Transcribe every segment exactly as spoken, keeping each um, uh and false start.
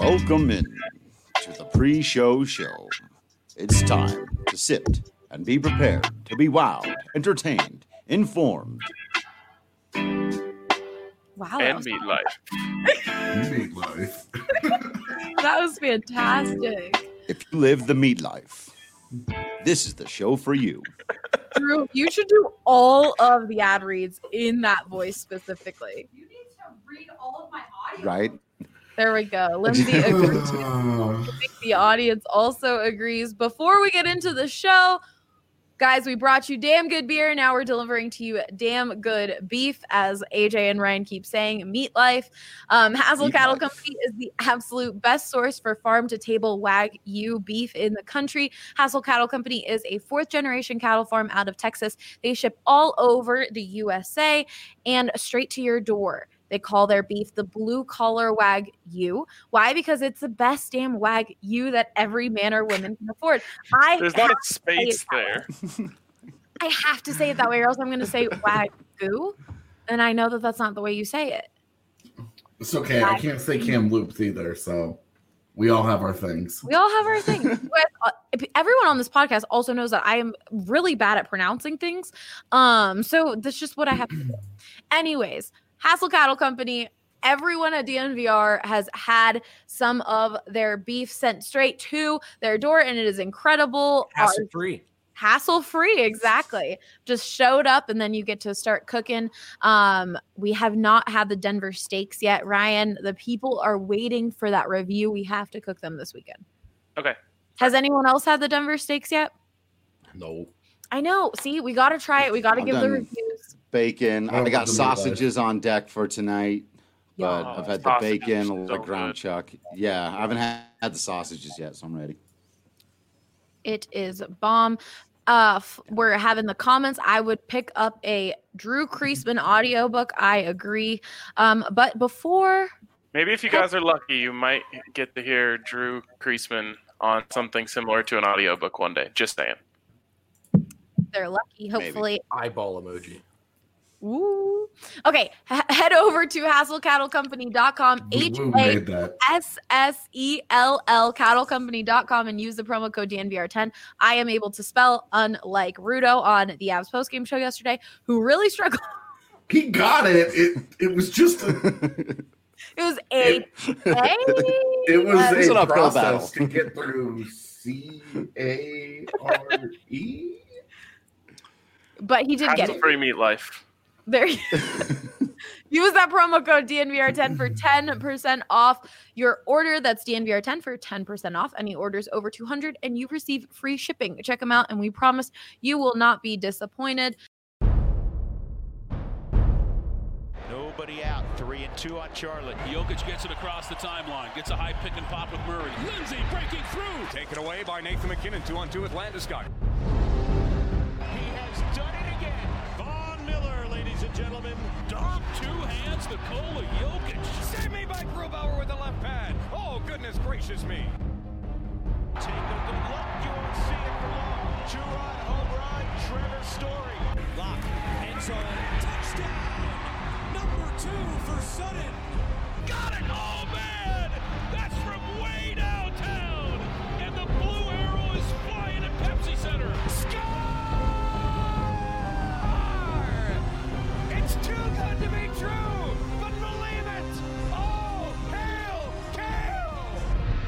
Welcome in to the pre-show show. It's time to sit and be prepared to be wowed, entertained, informed. Wow. And meat life. Meat life. That was fantastic. If you live the meat life, this is the show for you. Drew, you should do all of the ad reads in that voice specifically. You need to read all of my audio. Right? There we go. Lindsay agrees. I think the audience also agrees. Before we get into the show, guys, we brought you damn good beer. Now we're delivering to you damn good beef, as A J and Ryan keep saying, meat life. Um, Hassel Meat Cattle life. Company is the absolute best source for farm-to-table Wagyu beef in the country. Hassel Cattle Company is a fourth-generation cattle farm out of Texas. They ship all over the U S A and straight to your door. They call their beef the blue-collar Wagyu. Why? Because it's the best damn Wagyu that every man or woman can afford. I There's not have a to say it space that way. there. I have to say it that way, or else I'm going to say Wagyu, and I know that that's not the way you say it. It's okay. I can't say Kamloops either, so we all have our things. We all have our thing. You guys, uh, if- everyone on this podcast also knows that I am really bad at pronouncing things. Um, so that's just what I have to do. Anyways, Hassel Cattle Company. Everyone at D N V R has had some of their beef sent straight to their door, and it is incredible. Hassle free. Hassle free, exactly. Just showed up, and then you get to start cooking. Um, we have not had the Denver steaks yet, Ryan. The people are waiting for that review. We have to cook them this weekend. Okay. Has anyone else had the Denver steaks yet? No. I know. See, we got to try it. We got to I've give the done reviews. Bacon. I I don't got want the meat life. sausages on deck for tonight, but Yeah. I've had the Sausages bacon, are the so ground good. chuck. Yeah, I haven't had, had the sausages yet, so I'm ready. It is bomb. Uh, f- we're having the comments. I would pick up a Drew Creasman audiobook. I agree. Um, but before Maybe if you guys are lucky, you might get to hear Drew Creasman on something similar to an audiobook one day. Just saying. they're lucky, hopefully. Eyeball emoji. Ooh. Okay, H- head over to hassel cattle company dot com, We, H we A made that. S S E L L, cattle company dot com, and use the promo code D N V R ten. I am able to spell, unlike Rudo on the Avs postgame show yesterday, who really struggled. He got it. It it was just a, It was A. It- A. it was It's an a uphill process battle. to get through C A R E. But he did get Hassle it. free meat life. There. Use that promo code D N V R ten for ten percent off your order. That's D N V R ten for ten percent off any orders over two hundred, and you receive free shipping. Check them out, and we promise you will not be disappointed. Nobody out. Three and two on Charlotte. Jokic gets it across the timeline. Gets a high pick and pop with Murray. Lindsay breaking through. Taken away by Nathan McKinnon, two on two with Landeskog. He has done it again. Von Miller, ladies and gentlemen. Dog two hands Nikola Jokic. Save me by Grubauer with the left pad. Oh, goodness gracious me. Take a good look. You won't see it for long. Two-run home run. Trevor Story. Lock. End zone. Touchdown. Number two for Sutton. Got it. Oh, man. That's from way downtown. And the blue arrow is flying at Pepsi Center. Score! It's too good to be true, but believe it. Oh, hail, Kale!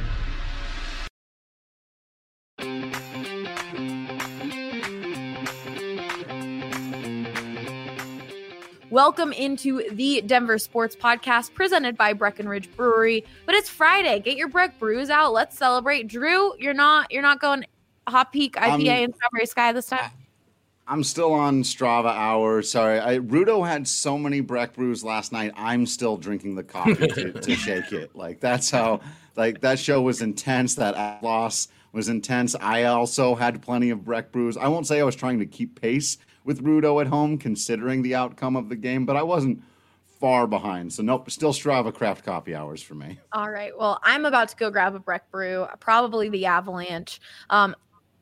Welcome into the Denver Sports Podcast presented by Breckenridge Brewery. But it's Friday. Get your Breck brews out. Let's celebrate. Drew, you're not you're not going Hot Peak I P A Um, and Strawberry Sky this time. I'm still on Strava hour. Sorry, I, Rudo had so many Breck brews last night. I'm still drinking the coffee to, to shake it. Like that's how. Like that show was intense. That loss was intense. I also had plenty of Breck brews. I won't say I was trying to keep pace with Rudo at home, considering the outcome of the game, but I wasn't far behind. So nope, still Strava craft copy hours for me. All right. Well, I'm about to go grab a Breck brew, probably the Avalanche. Um,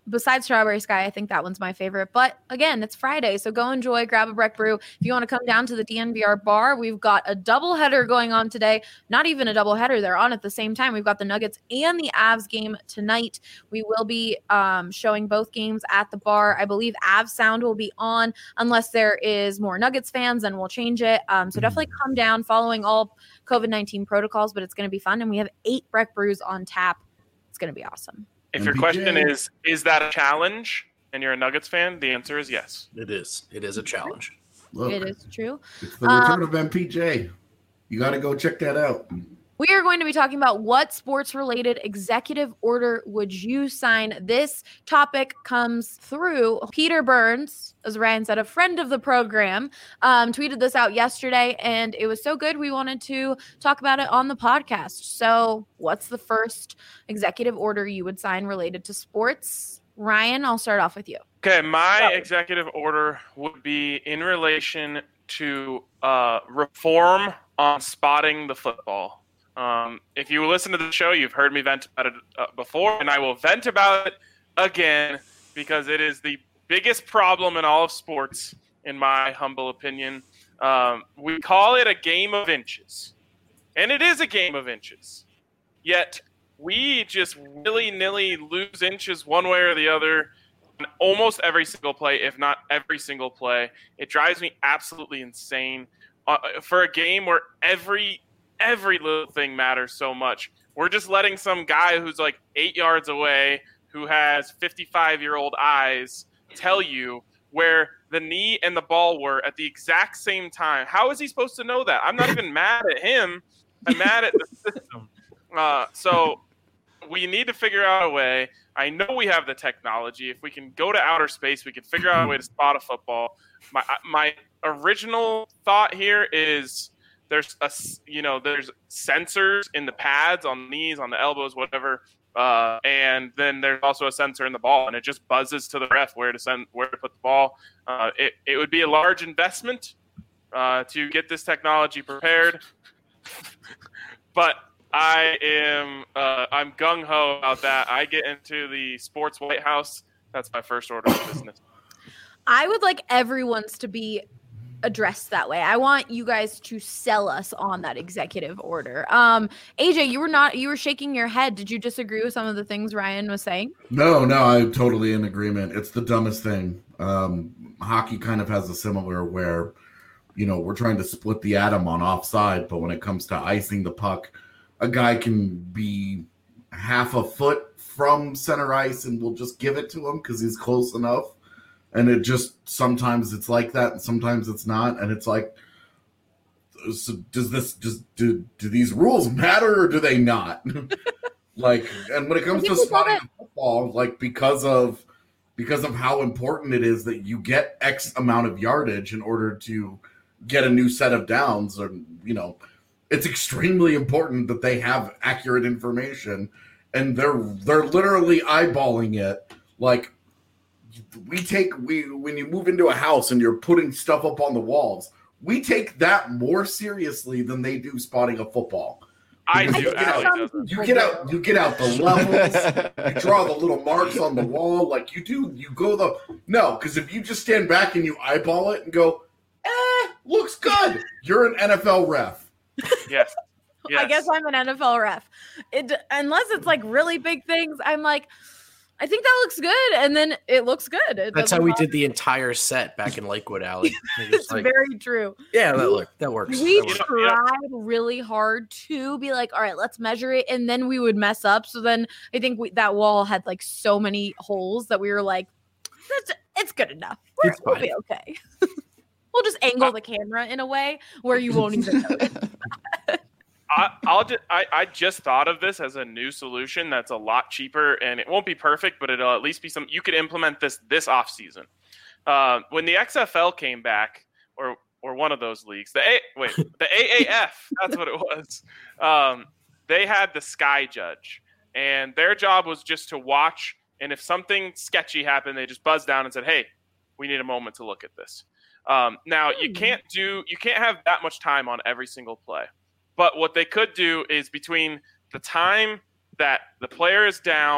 besides Strawberry Sky, I think that one's my favorite. But again, it's Friday, so go enjoy, grab a Breck Brew. If you want to come down to the D N V R bar, we've got a doubleheader going on today. Not even a doubleheader, they're on at the same time. We've got the Nuggets and the Avs game tonight. We will be um, showing both games at the bar. I believe Avs sound will be on unless there is more Nuggets fans, then we'll change it. Um, so definitely come down following all COVID nineteen protocols, but it's going to be fun. And we have eight Breck Brews on tap. It's going to be awesome. If your question is, is that a challenge and you're a Nuggets fan, the answer is yes. It is. It is a challenge. Look, It is true. it's the return Um, of M P J. You got to go check that out. We are going to be talking about what sports-related executive order would you sign. This topic comes through Peter Burns, as Ryan said, a friend of the program, um, tweeted this out yesterday, and it was so good we wanted to talk about it on the podcast. So what's the first executive order you would sign related to sports? Ryan, I'll start off with you. Okay, my executive order would be in relation to uh, reform on spotting the football. Um, if you listen to the show, you've heard me vent about it uh, before, and I will vent about it again because it is the biggest problem in all of sports, in my humble opinion. Um, we call it a game of inches, and it is a game of inches. Yet we just willy-nilly lose inches one way or the other on almost every single play, if not every single play. It drives me absolutely insane. Uh, for a game where every every little thing matters so much, we're just letting some guy who's like eight yards away, who has fifty-five-year-old eyes, tell you where the knee and the ball were at the exact same time. How is he supposed to know that? I'm not even mad at him. I'm mad at the system. Uh, so we need to figure out a way. I know we have the technology. If we can go to outer space, we can figure out a way to spot a football. My my original thought here is there's a you know there's sensors in the pads, on the knees, on the elbows, whatever, uh, and then there's also a sensor in the ball, and it just buzzes to the ref where to send where to put the ball. Uh, it it would be a large investment uh, to get this technology prepared, but I am uh, I'm gung ho about that. I get into the sports White House. That's my first order of business. I would like everyone's to be addressed that way. I want you guys to sell us on that executive order. Um, A J, you were not, you were shaking your head. Did you disagree with some of the things Ryan was saying? No, no, I'm totally in agreement. It's the dumbest thing. Um, hockey kind of has a similar where, you know, we're trying to split the atom on offside, but when it comes to icing the puck, a guy can be half a foot from center ice and we'll just give it to him because he's close enough. And it just, sometimes it's like that and sometimes it's not. And it's like, so does this, does, do, do these rules matter or do they not? Like, and when it comes to spotting football, like because of, because of how important it is that you get X amount of yardage in order to get a new set of downs, or, you know, it's extremely important that they have accurate information, and they're, they're literally eyeballing it. Like, we take we when you move into a house and you're putting stuff up on the walls, we take that more seriously than they do spotting a football. I Because do. You get, Allie out, doesn't. you get out. You get out the levels. You draw the little marks on the wall, like you do. You go the no, because if you just stand back and you eyeball it and go, eh, looks good. You're an N F L ref. Yes. Yes. I guess I'm an N F L ref. It, unless it's like really big things, I'm like, I think that looks good, and then it looks good. It That's how doesn't we bother did the entire set back in Lakewood Alley. It's Like, very true. yeah, that look that works. We That works. tried really hard to be like, all right, let's measure it, and then we would mess up. So then I think we, that wall had like so many holes that we were like, That's, it's good enough. We're, It's we'll fine. be okay. We'll just angle the camera in a way where you won't even notice. I, I'll just, I, I just thought of this as a new solution that's a lot cheaper, and it won't be perfect, but it'll at least be some. You could implement this this off season. Uh, when the X F L came back, or or one of those leagues, the A, wait, the A A F, that's what it was. Um, they had the Sky Judge, and their job was just to watch. And if something sketchy happened, they just buzzed down and said, "Hey, we need a moment to look at this." Um, now you can't do you can't have that much time on every single play. But what they could do is between the time that the player is down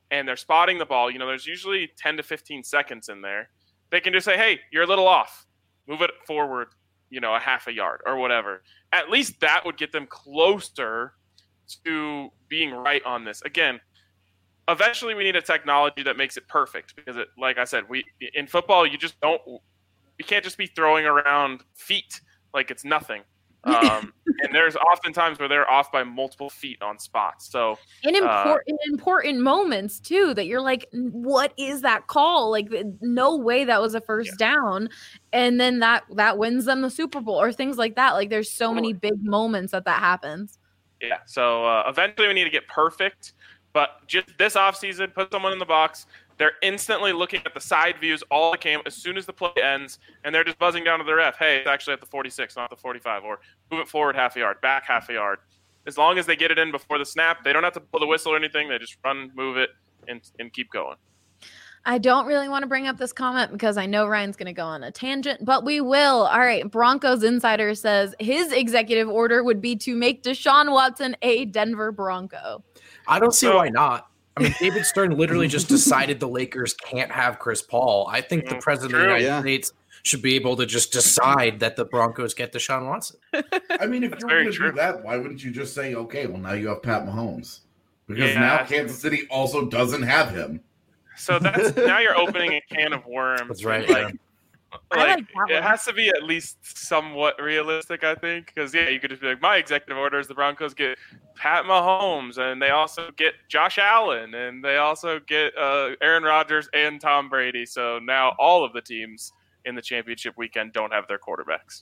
and they're spotting the ball, you know, there's usually ten to fifteen seconds in there. They can just say, hey, you're a little off. Move it forward, you know, a half a yard or whatever. At least that would get them closer to being right on this. Again, eventually we need a technology that makes it perfect because, it, like I said, we in football, you just don't – you can't just be throwing around feet like it's nothing. Um, and there's often times where they're off by multiple feet on spots. So in important uh, important moments too, that you're like, what is that call? Like, no way that was a first yeah. down, and then that that wins them the Super Bowl or things like that. Like, there's so many big moments that that happens. Yeah. So uh, eventually we need to get perfect, but just this offseason, put someone in the box. They're instantly looking at the side views, all the cam, as soon as the play ends, and they're just buzzing down to the ref. Hey, it's actually at the forty-six, not the forty-five, or move it forward half a yard, back half a yard. As long as they get it in before the snap, they don't have to blow the whistle or anything. They just run, move it, and, and keep going. I don't really want to bring up this comment because I know Ryan's going to go on a tangent, but we will. All right. Broncos Insider says his executive order would be to make Deshaun Watson a Denver Bronco. I don't see so, why not. I mean, David Stern literally just decided the Lakers can't have Chris Paul. I think the president True, of the United yeah. States should be able to just decide that the Broncos get Deshaun Watson. I mean, if That's you're very going to true. do that, why wouldn't you just say, okay, well, now you have Pat Mahomes? Because Yeah. now Kansas City also doesn't have him. So that's now you're opening a can of worms. That's right. Like, I like, like that it one. has to be at least somewhat realistic, I think, because yeah, you could just be like, my executive order is the Broncos get Pat Mahomes, and they also get Josh Allen, and they also get uh, Aaron Rodgers and Tom Brady. So now all of the teams in the championship weekend don't have their quarterbacks.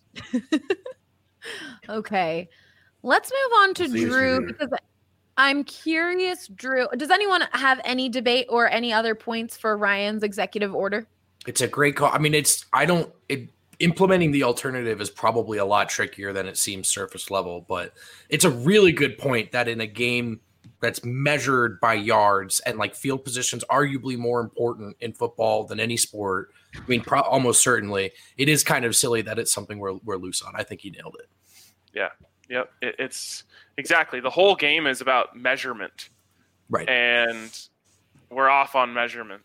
Okay, let's move on to See Drew you. because I'm curious. Drew, does anyone have any debate or any other points for Ryan's executive order? It's a great call. I mean, it's I don't it, implementing the alternative is probably a lot trickier than it seems surface level, but it's a really good point that in a game that's measured by yards and like field positions, arguably more important in football than any sport. I mean, pro- almost certainly, it is kind of silly that it's something we're we're loose on. I think he nailed it. Yeah, yep. It, it's exactly the whole game is about measurement, Right. and we're off on measurement.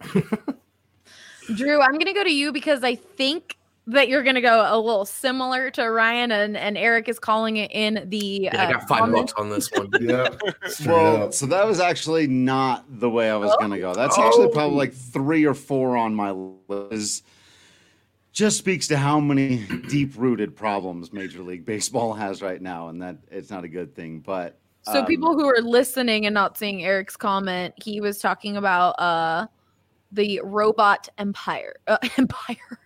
Drew, I'm going to go to you because I think that you're going to go a little similar to Ryan, and, and Eric is calling it in the. Yeah, I got uh, five comments. bucks on this one. Yeah. Straight Well, up. so that was actually not the way I was Oh. going to go. That's Oh. actually probably like three or four on my list. Just speaks to how many deep-rooted problems Major League Baseball has right now, and that it's not a good thing. But So um, people who are listening and not seeing Eric's comment, he was talking about uh, the robot empire. Uh, empire.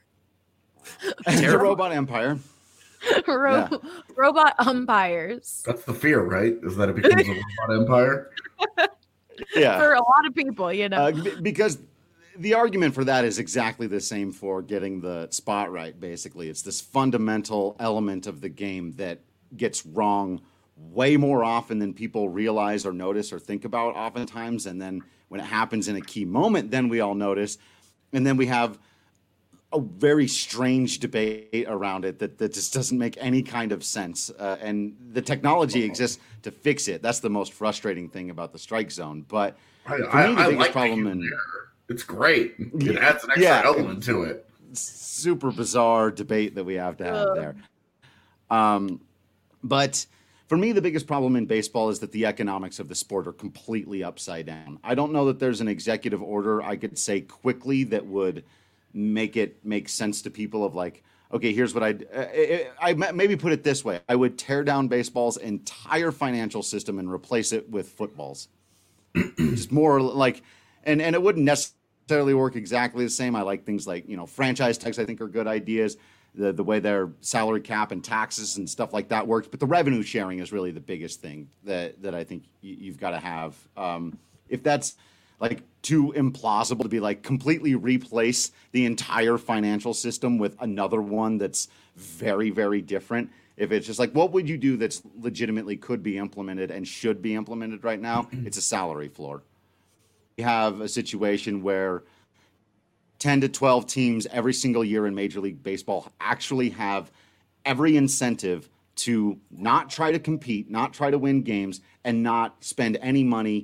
the Robot Empire. Ro- Yeah. Robot umpires. That's the fear, right? Is that it becomes a robot empire? Yeah. For a lot of people, you know. Uh, b- because the argument for that is exactly the same for getting the spot right, basically. It's this fundamental element of the game that gets wrong way more often than people realize or notice or think about oftentimes. And then when it happens in a key moment, then we all notice. And then we have a very strange debate around it that, that just doesn't make any kind of sense. Uh, and the technology exists to fix it. That's the most frustrating thing about the strike zone. But I, for I, me, the I biggest like problem the in humor. It's great. It adds an extra Yeah. element to it. super bizarre debate that we have to have Ugh. there. Um, but for me, the biggest problem in baseball is that the economics of the sport are completely upside down. I don't know that there's an executive order I could say quickly that would make it make sense to people of like, okay, here's what I'd, uh, I maybe put it this way. I would tear down baseball's entire financial system and replace it with football's. Just more like, and, and it wouldn't necessarily work exactly the same. I like things like, you know, franchise tags I think are good ideas. The the way their salary cap and taxes and stuff like that works. But the revenue sharing is really the biggest thing that, that I think you, you've got to have. Um, if that's like too implausible to be like completely replace the entire financial system with another one that's very, very different. If it's just like, what would you do that's legitimately could be implemented and should be implemented right now? It's a salary floor. You have a situation where ten to twelve teams every single year in Major League Baseball actually have every incentive to not try to compete, not try to win games, and not spend any money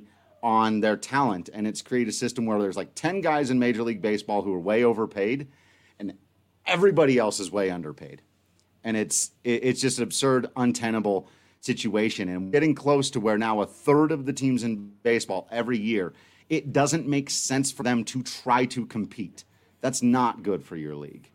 on their talent, and it's created a system where there's like ten guys in Major League Baseball who are way overpaid, and everybody else is way underpaid. And it's it, it's just an absurd, untenable situation. And getting close to where now a third of the teams in baseball every year, it doesn't make sense for them to try to compete. That's not good for your league.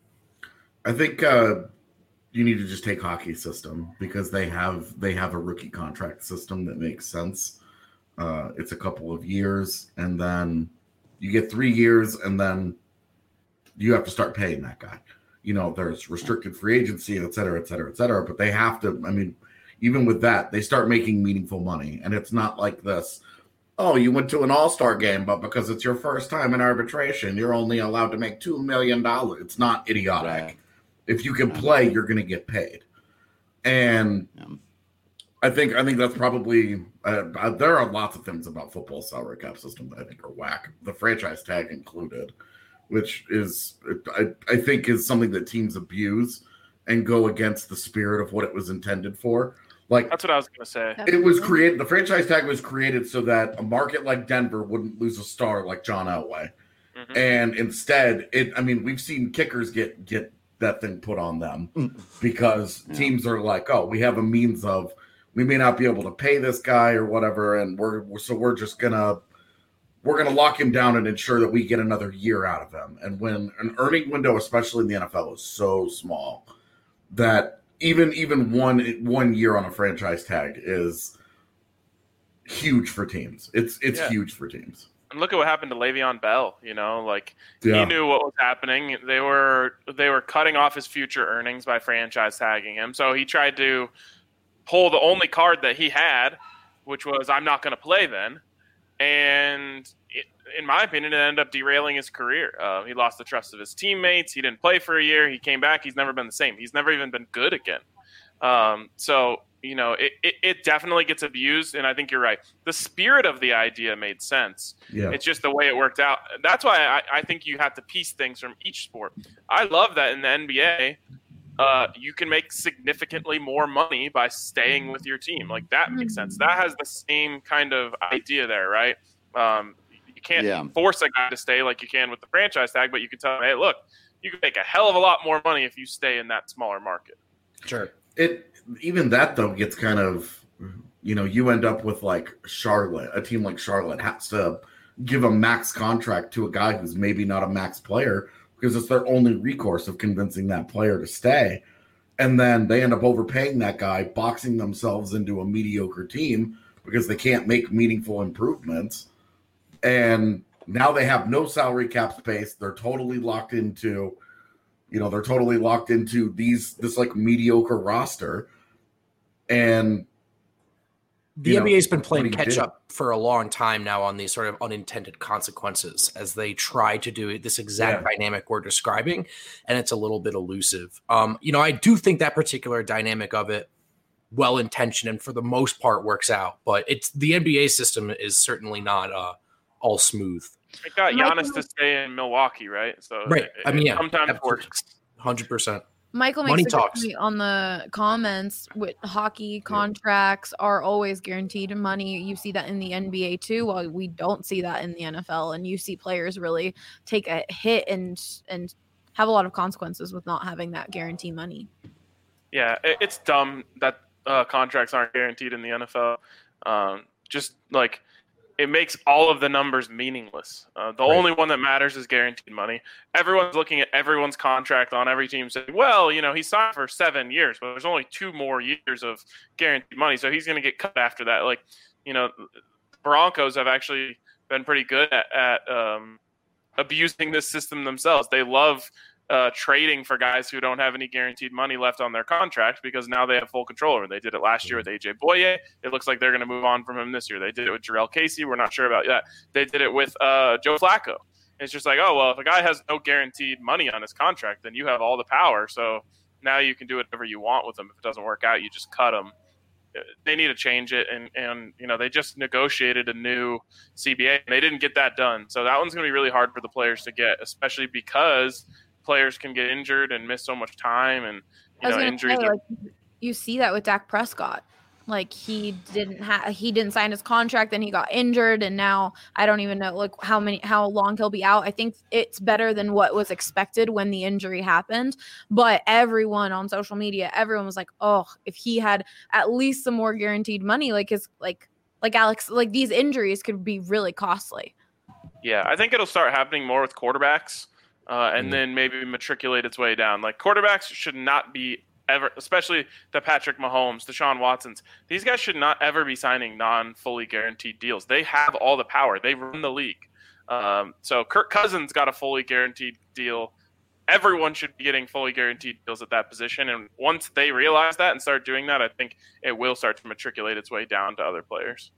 I think uh, you need to just take hockey system because they have they have a rookie contract system that makes sense. Uh, it's a couple of years, and then you get three years, and then you have to start paying that guy. You know, there's restricted free agency, et cetera, et cetera, et cetera. But they have to, I mean, even with that, they start making meaningful money. And it's not like this, oh, you went to an all-star game, but because it's your first time in arbitration, you're only allowed to make two million dollars. It's not idiotic. Right. If you can play, you're going to get paid. And yeah. I think I think that's probably uh, – there are lots of things about football salary cap system that I think are whack, the franchise tag included, which is I, I think is something that teams abuse and go against the spirit of what it was intended for. Like that's what I was going to say. It was created – the franchise tag was created so that a market like Denver wouldn't lose a star like John Elway. Mm-hmm. And instead, it – I mean, we've seen kickers get get that thing put on them because yeah. teams are like, oh, we have a means of – we may not be able to pay this guy or whatever, and we're, we're so we're just gonna we're gonna lock him down and ensure that we get another year out of him. And when an earning window, especially in the N F L, is so small that even even one one year on a franchise tag is huge for teams. It's it's yeah. huge for teams. And look at what happened to Le'Veon Bell. You know, like yeah. he knew what was happening. They were they were cutting off his future earnings by franchise tagging him. So he tried to pull the only card that he had, which was I'm not going to play then. And it, in my opinion, it ended up derailing his career. Uh, he lost the trust of his teammates. He didn't play for a year. He came back. He's never been the same. He's never even been good again. Um, so, you know, it, it, it definitely gets abused. And I think you're right. The spirit of the idea made sense. Yeah. It's just the way it worked out. That's why I, I think you have to piece things from each sport. I love that in the N B A, Uh, you can make significantly more money by staying with your team. Like that makes sense. That has the same kind of idea there, right? Um, you can't yeah. force a guy to stay like you can with the franchise tag, but you can tell him, hey, look, you can make a hell of a lot more money if you stay in that smaller market. Sure. It even that though gets kind of, you know, you end up with like Charlotte, a team like Charlotte has to give a max contract to a guy who's maybe not a max player, because it's their only recourse of convincing that player to stay. And then they end up overpaying that guy, boxing themselves into a mediocre team because they can't make meaningful improvements. And now they have no salary cap space. They're totally locked into, you know, they're totally locked into these, this like mediocre roster. And the N B A's been playing catch up for a long time now on these sort of unintended consequences as they try to do this exact yeah. dynamic we're describing, and it's a little bit elusive. Um, you know, I do think that particular dynamic of it, well-intentioned and for the most part works out, but it's the N B A system is certainly not uh, all smooth. It got Giannis to stay in Milwaukee, right? So right. It, I mean, yeah, sometimes it works. one hundred percent. Michael Money makes a talks. good point on the comments with hockey contracts yeah. are always guaranteed money. You see that in the N B A too. While we don't see that in the N F L, and you see players really take a hit and and have a lot of consequences with not having that guarantee money. Yeah, it, it's dumb that uh, contracts aren't guaranteed in the N F L. Um, just like it makes all of the numbers meaningless. Uh, the right. only one that matters is guaranteed money. Everyone's looking at everyone's contract on every team saying, well, you know, he signed for seven years, but there's only two more years of guaranteed money. So he's going to get cut after that. Like, you know, Broncos have actually been pretty good at, at um, abusing this system themselves. They love uh, trading for guys who don't have any guaranteed money left on their contract because now they have full control over it. They did it last year with A J Boye. It looks like they're going to move on from him this year. They did it with Jarrell Casey. We're not sure about that. They did it with uh, Joe Flacco. It's just like, oh, well, if a guy has no guaranteed money on his contract, then you have all the power. So now you can do whatever you want with him. If it doesn't work out, you just cut him. They need to change it. And, and you know, they just negotiated a new C B A, and they didn't get that done. So that one's going to be really hard for the players to get, especially because players can get injured and miss so much time. And, you know, injuries say, are... like, you see that with Dak Prescott. Like he didn't have he didn't sign his contract, then he got injured, and now I don't even know like how many how long he'll be out. I think it's better than what was expected when the injury happened. But everyone on social media, everyone was like, "Oh, if he had at least some more guaranteed money, like his like like Alex, like these injuries could be really costly." Yeah, I think it'll start happening more with quarterbacks, uh, and mm. then maybe matriculate its way down. Like quarterbacks should not be ever, especially the Patrick Mahomes, Deshaun Watsons. These guys should not ever be signing non-fully guaranteed deals. They have all the power. They run the league. Um, so Kirk Cousins got a fully guaranteed deal. Everyone should be getting fully guaranteed deals at that position. And once they realize that and start doing that, I think it will start to matriculate its way down to other players.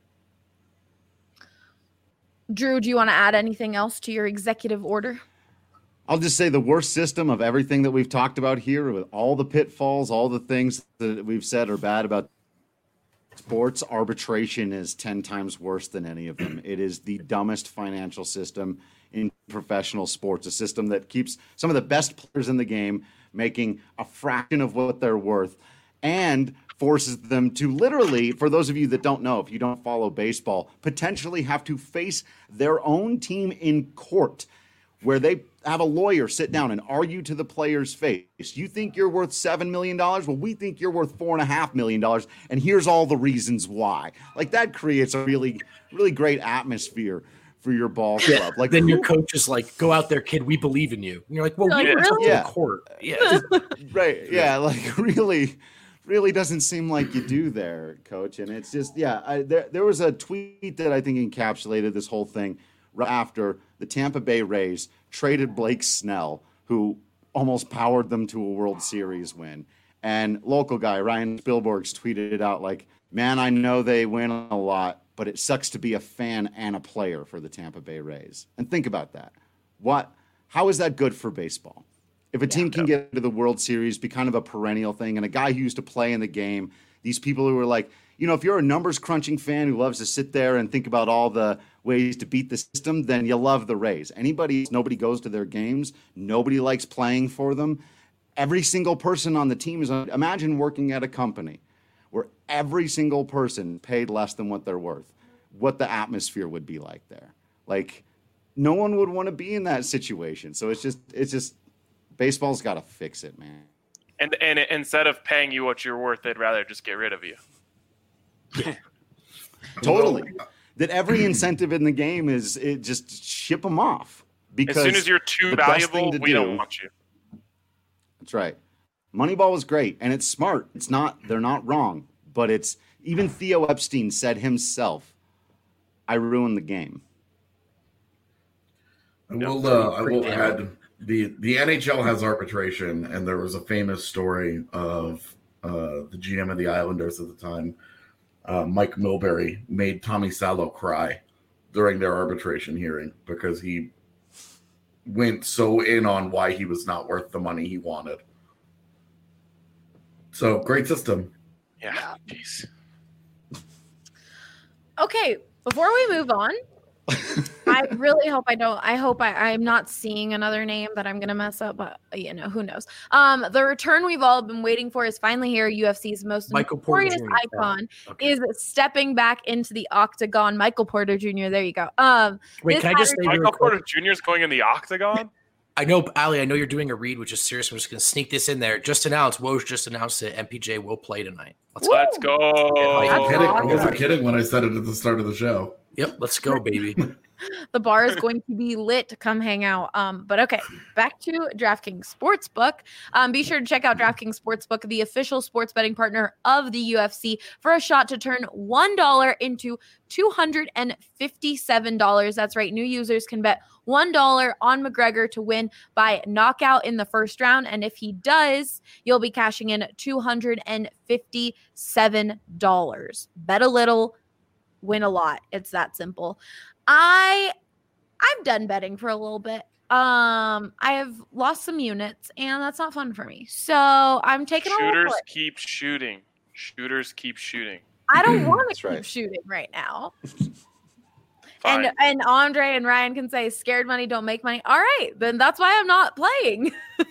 Drew, do you want to add anything else to your executive order? I'll just say the worst system of everything that we've talked about here, with all the pitfalls, all the things that we've said are bad about sports, arbitration is ten times worse than any of them. It is the dumbest financial system in professional sports, a system that keeps some of the best players in the game making a fraction of what they're worth and forces them to literally, for those of you that don't know, if you don't follow baseball, potentially have to face their own team in court, where they have a lawyer sit down and argue to the player's face. You think you're worth seven million dollars? Well, we think you're worth four and a half million dollars. And here's all the reasons why. Like that creates a really, really great atmosphere for your ball club. Yeah. Like then your coach is like, go out there, kid. We believe in you. And you're like, well, like, we really? yeah. court. Yeah. Right. Yeah. Like really, really doesn't seem like you do there, coach. And it's just, yeah, I, there, there was a tweet that I think encapsulated this whole thing right after the Tampa Bay Rays traded Blake Snell, who almost powered them to a World Series win. And local guy, Ryan Spielberg's tweeted it out like, man, I know they win a lot, but it sucks to be a fan and a player for the Tampa Bay Rays. And think about that. What, how is that good for baseball? If a team yeah, can no. get to the World Series, be kind of a perennial thing, and a guy who used to play in the game, these people who are like, you know, if you're a numbers crunching fan who loves to sit there and think about all the ways to beat the system, then you love the Rays. Anybody, nobody goes to their games. Nobody likes playing for them. Every single person on the team is, imagine working at a company where every single person paid less than what they're worth, what the atmosphere would be like there. Like no one would want to be in that situation. So it's just, it's just, baseball's got to fix it, man. And, and instead of paying you what you're worth, they'd rather just get rid of you. Totally. That every incentive in the game is it just ship them off. Because as soon as you're too valuable, we do, don't want you. That's right. Moneyball was great, and it's smart. It's not, they're not wrong, but it's, even Theo Epstein said himself, I ruined the game. I will, uh, I will add, the, the N H L has arbitration, and there was a famous story of uh, the G M of the Islanders at the time, uh, Mike Milbury, made Tommy Salo cry during their arbitration hearing because he went so in on why he was not worth the money he wanted. So great system. Yeah. Jeez. Okay, before we move on, I really hope I don't. I hope I, I'm not seeing another name that I'm gonna mess up, but you know who knows. Um, the return we've all been waiting for is finally here. U F C's most Michael notorious Porter icon oh, okay. is stepping back into the octagon. Michael Porter Junior There you go. Um, wait, can I just say Michael Porter Junior is going in the octagon? I know, Ali, I know you're doing a read, which is serious. I'm just going to sneak this in there. Just announced, Woj just announced that M P J will play tonight. Let's, Let's go. I wasn't, kidding. I wasn't kidding when I said it at the start of the show. Yep, let's go, baby. The bar is going to be lit to come hang out. Um, but okay, back to DraftKings Sportsbook. Um, be sure to check out DraftKings Sportsbook, the official sports betting partner of the U F C, for a shot to turn one dollar into two hundred fifty-seven dollars. That's right. New users can bet one dollar on McGregor to win by knockout in the first round. And if he does, you'll be cashing in two hundred fifty-seven dollars. Bet a little, win a lot. It's that simple. I I'm done betting for a little bit. Um, I have lost some units, and that's not fun for me. So I'm taking a shooters keep shooting. Shooters keep shooting. I don't want to keep right. shooting right now. and and Andre and Ryan can say scared money don't make money. All right, then that's why I'm not playing.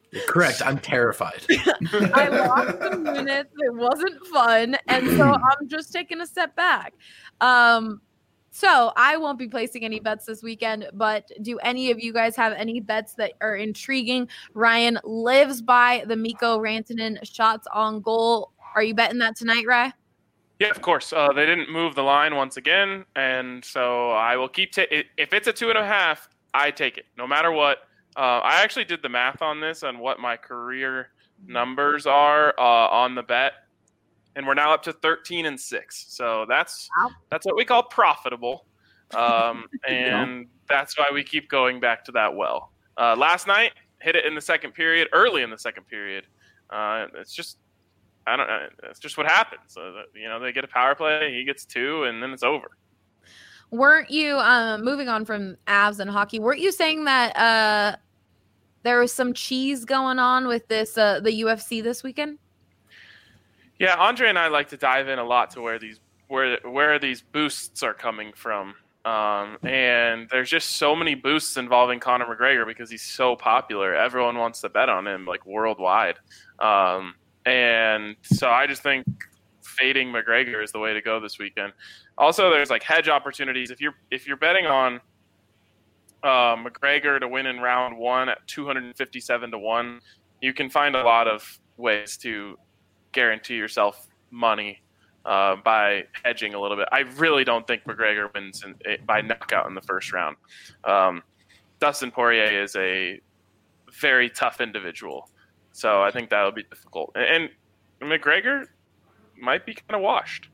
Correct. I'm terrified. I lost some units. It wasn't fun. And so I'm just taking a step back. Um, so I won't be placing any bets this weekend, but do any of you guys have any bets that are intriguing? Ryan lives by the Mikko Rantanen shots on goal. Are you betting that tonight, Rye? Yeah, of course. Uh, they didn't move the line once again, and so I will keep ta- – if it's a two and a half, I take it no matter what. Uh, I actually did the math on this on what my career numbers are uh, on the bet, and we're now up to thirteen and six. So that's wow. that's what we call profitable, um, and that's why we keep going back to that well. Uh, last night, hit it in the second period, early in the second period. Uh, it's just I don't know. It's just what happens. So that, you know, they get a power play, he gets two, and then it's over. Weren't you, um, moving on from Avs and hockey, weren't you saying that uh, there was some cheese going on with this, uh, the U F C this weekend? Yeah, Andre and I like to dive in a lot to where these where where these boosts are coming from. Um, and there's just so many boosts involving Conor McGregor because he's so popular. Everyone wants to bet on him, like, worldwide. Um, and so I just think fading McGregor is the way to go this weekend. Also, there's like hedge opportunities. If you're if you're betting on uh, McGregor to win in round one at two hundred fifty-seven to one, you can find a lot of ways to guarantee yourself money uh, by hedging a little bit. I really don't think McGregor wins in, by knockout in the first round. Um, Dustin Poirier is a very tough individual, so I think that'll be difficult. And, and McGregor might be kind of washed.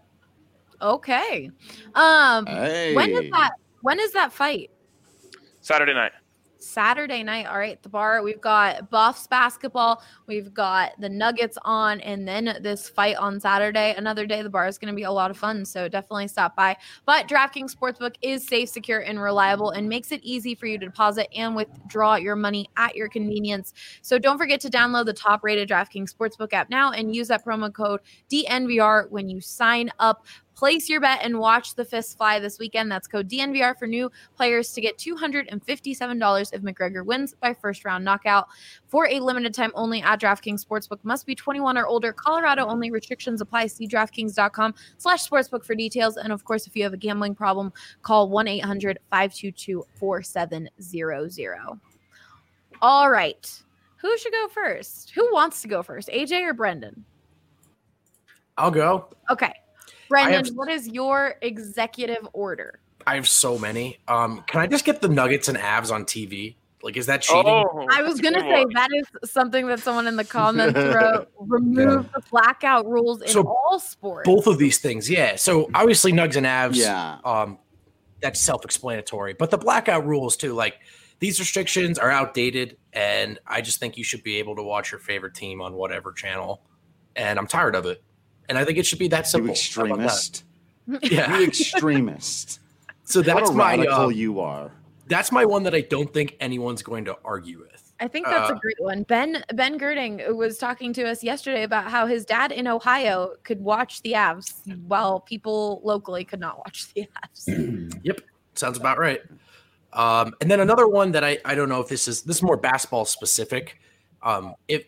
Okay. Um, hey. when is that? When is that fight? Saturday night. Saturday night. All right, the bar. We've got Buffs basketball. We've got the Nuggets on, and then this fight on Saturday. Another day. The bar is going to be a lot of fun, so definitely stop by. But DraftKings Sportsbook is safe, secure, and reliable, and makes it easy for you to deposit and withdraw your money at your convenience. So don't forget to download the top-rated DraftKings Sportsbook app now and use that promo code D N V R when you sign up. Place your bet and watch the fists fly this weekend. That's code D N V R for new players to get two hundred fifty-seven dollars if McGregor wins by first round knockout. For a limited time only at DraftKings Sportsbook. Must be twenty-one or older. Colorado only. Restrictions apply. See DraftKings.com slash sportsbook for details. And of course, if you have a gambling problem, call one eight hundred five two two four seven zero zero. All right. Who should go first? Who wants to go first? A J or Brendan? I'll go. Okay. Brendan, have, what is your executive order? I have so many. Um, can I just get the Nuggets and Avs on T V? Like, is that cheating? Oh, I was going to say one. That is something that someone in the comments wrote. Remove yeah. the blackout rules in so all sports. Both of these things, yeah. So obviously Nugs and Avs, yeah. um, that's self-explanatory. But the blackout rules too, like these restrictions are outdated, and I just think you should be able to watch your favorite team on whatever channel. And I'm tired of it. And I think it should be that simple. You extremist. Yeah. You extremist. So that's what a my radical uh, you are. That's my one that I don't think anyone's going to argue with. I think that's uh, a great one. Ben Ben Girding was talking to us yesterday about how his dad in Ohio could watch the Avs while people locally could not watch the Avs. Yep. Sounds about right. Um, and then another one that I, I don't know if this is this is more basketball specific. Um, if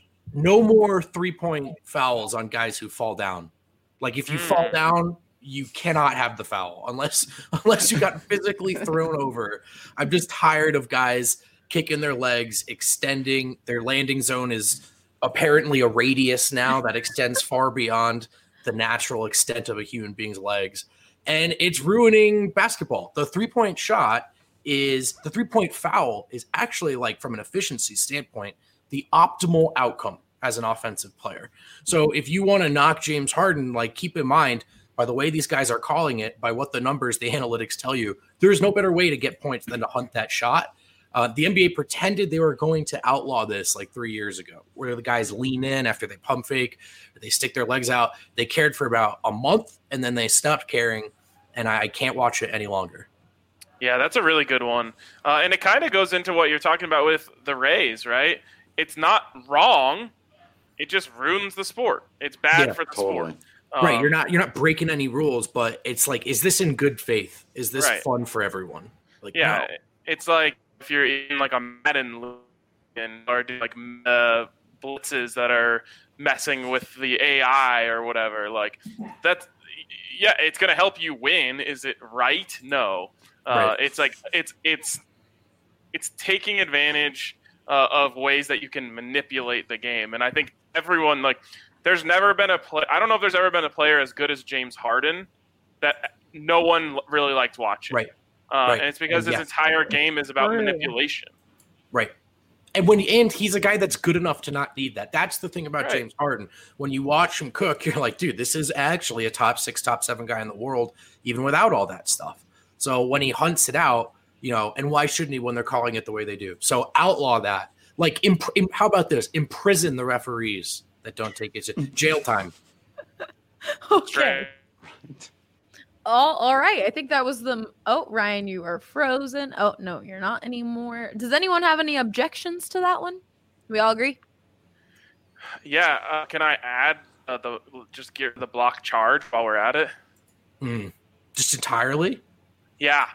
no more three-point fouls on guys who fall down. Like if you mm. fall down, you cannot have the foul unless unless you got physically thrown over. I'm just tired of guys kicking their legs, extending. Their landing zone is apparently a radius now that extends far beyond the natural extent of a human being's legs. And it's ruining basketball. The three-point shot is the three-point foul is actually, like, from an efficiency standpoint, the optimal outcome as an offensive player. So if you want to knock James Harden, like, keep in mind, by the way these guys are calling it, by what the numbers, the analytics tell you, there's no better way to get points than to hunt that shot. Uh, the N B A pretended they were going to outlaw this like three years ago, where the guys lean in after they pump fake, or they stick their legs out. They cared for about a month, and then they stopped caring, and I, I can't watch it any longer. Yeah, that's a really good one. Uh, and it kind of goes into what you're talking about with the Rays, right? It's not wrong. It just ruins the sport. It's bad yeah, for the totally. sport. Um, right, you're not you're not breaking any rules, but it's like, is this in good faith? Is this right. fun for everyone? Like, yeah, no. It's like if you're in like a Madden and or do like uh, blitzes that are messing with the A I or whatever. Like that's yeah, it's gonna help you win. Is it right? No. Uh, right. It's like it's it's it's taking advantage uh, of ways that you can manipulate the game, and I think everyone like there's never been a play. I don't know if there's ever been a player as good as James Harden that no one really liked watching. Right. Uh, right. And it's because yeah. his entire game is about manipulation. Right. And when and he's a guy that's good enough to not need that. That's the thing about right. James Harden. When you watch him cook, you're like, dude, this is actually a top six, top seven guy in the world, even without all that stuff. So when he hunts it out, you know, and why shouldn't he when they're calling it the way they do? So outlaw that. Like, imp- imp- how about this? Imprison the referees that don't take it. Jail time. Okay. Oh, all right. I think that was the. Oh, Ryan, you are frozen. Oh, no, you're not anymore. Does anyone have any objections to that one? We all agree? Yeah. Uh, can I add uh, the just get the block charge while we're at it? Mm. Just entirely? Yeah.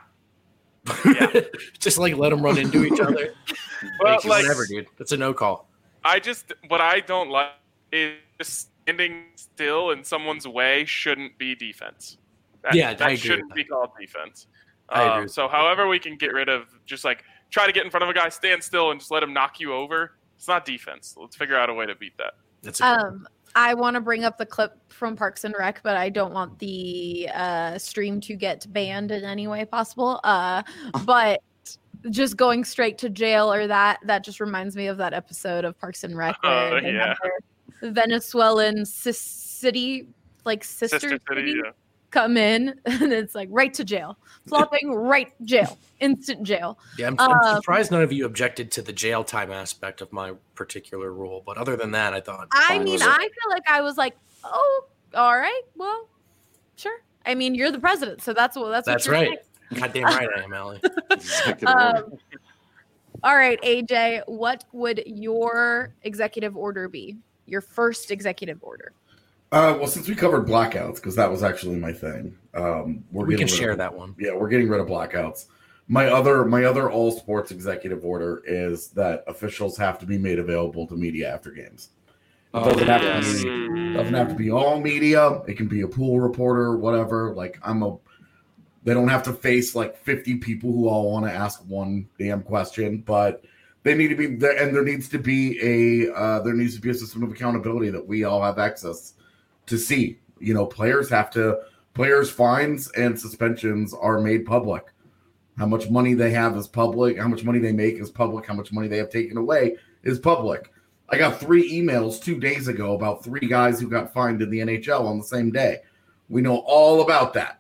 Yeah. Just like let them run into each other. Well, like, whatever, dude. That's a no call. I just what I don't like is just standing still in someone's way shouldn't be defense. That, yeah, that I agree shouldn't with be that. called defense. I Um, agree. so, however, we can get rid of just like try to get in front of a guy, stand still, and just let him knock you over. It's not defense. Let's figure out a way to beat that. That's a good Um, I want to bring up the clip from Parks and Rec, but I don't want the uh, stream to get banned in any way possible. Uh, but just going straight to jail or that, that just reminds me of that episode of Parks and Rec where Oh, they yeah. have their Venezuelan sis- city, like sister, Sister City, city yeah. come in, and it's like right to jail, flopping right jail, instant jail. Yeah, I'm, I'm Um, surprised none of you objected to the jail time aspect of my particular rule. But other than that, I thought. I fine mean, with it. I feel like I was like, oh, all right, well, sure. I mean, you're the president, so that's what that's That's what you're right. Goddamn right I am, Allie. Executive saying. order. Um, all right, A J, what would your executive order be? Your first executive order? Uh, well, since we covered blackouts, because that was actually my thing, um, we're We getting can rid share of, that one. Yeah, we're getting rid of blackouts. My other, my other all sports executive order is that officials have to be made available to media after games. It Oh, doesn't have yes. to be, doesn't have to be all media. It can be a pool reporter, whatever. Like I'm a, they don't have to face like fifty people who all want to ask one damn question, but they need to be there, and there needs to be a, uh, there needs to be a system of accountability that we all have access to see. You know, players have to, players' fines and suspensions are made public. How much money they have is public. How much money they make is public. How much money they have taken away is public. I got three emails two days ago about three guys who got fined in the N H L on the same day. We know all about that.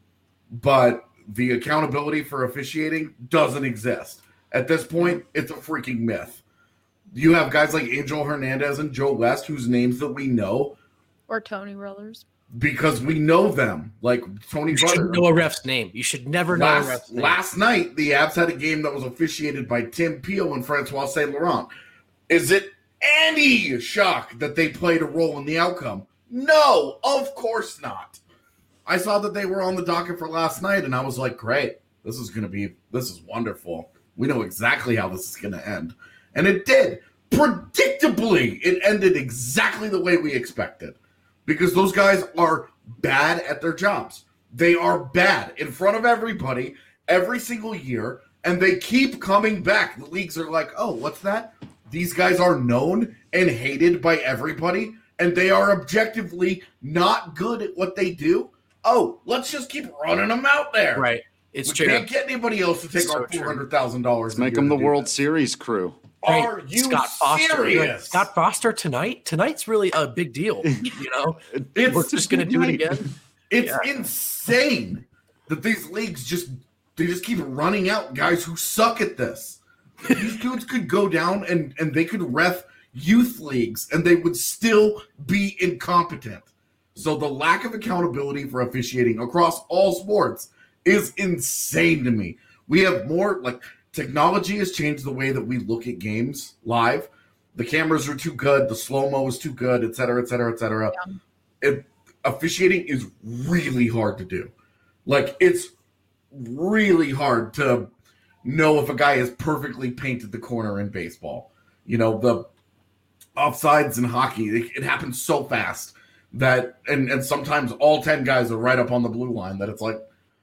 But the accountability for officiating doesn't exist. At this point, it's a freaking myth. You have guys like Angel Hernandez and Joe West, whose names that we know Or Tony Brothers? because we know them. Like Tony You Butter. should know a ref's name. You should never know a Last, ref's name. last night, the Avs had a game that was officiated by Tim Peel and Francois Saint Laurent. Is it any shock that they played a role in the outcome? No, of course not. I saw that they were on the docket for last night, and I was like, great. This is going to be, this is wonderful. We know exactly how this is going to end. And it did. Predictably, it ended exactly the way we expected. Because those guys are bad at their jobs. They are bad in front of everybody every single year, and they keep coming back. The leagues are like, oh, what's that? These guys are known and hated by everybody, and they are objectively not good at what they do. Oh, let's just keep running them out there. Right. It's we true. can't get anybody else to take It's our so true. four hundred thousand dollars. Make them the World Series crew. Right. Are you Scott Foster. serious? Scott Foster tonight? Tonight's really a big deal. You know, It's- we're just going to do it again. It's Yeah. insane that these leagues just they just keep running out guys who suck at this. These dudes could go down and, and they could ref youth leagues and they would still be incompetent. So the lack of accountability for officiating across all sports is insane to me. We have more like technology has changed the way that we look at games live. The cameras are too good, the slow-mo is too good, et cetera, et cetera, et cetera. Yeah. It, officiating is really hard to do. Like, it's really hard to know if a guy has perfectly painted the corner in baseball. You know, the offsides in hockey, it, it happens so fast that, and, and sometimes all ten guys are right up on the blue line that it's like,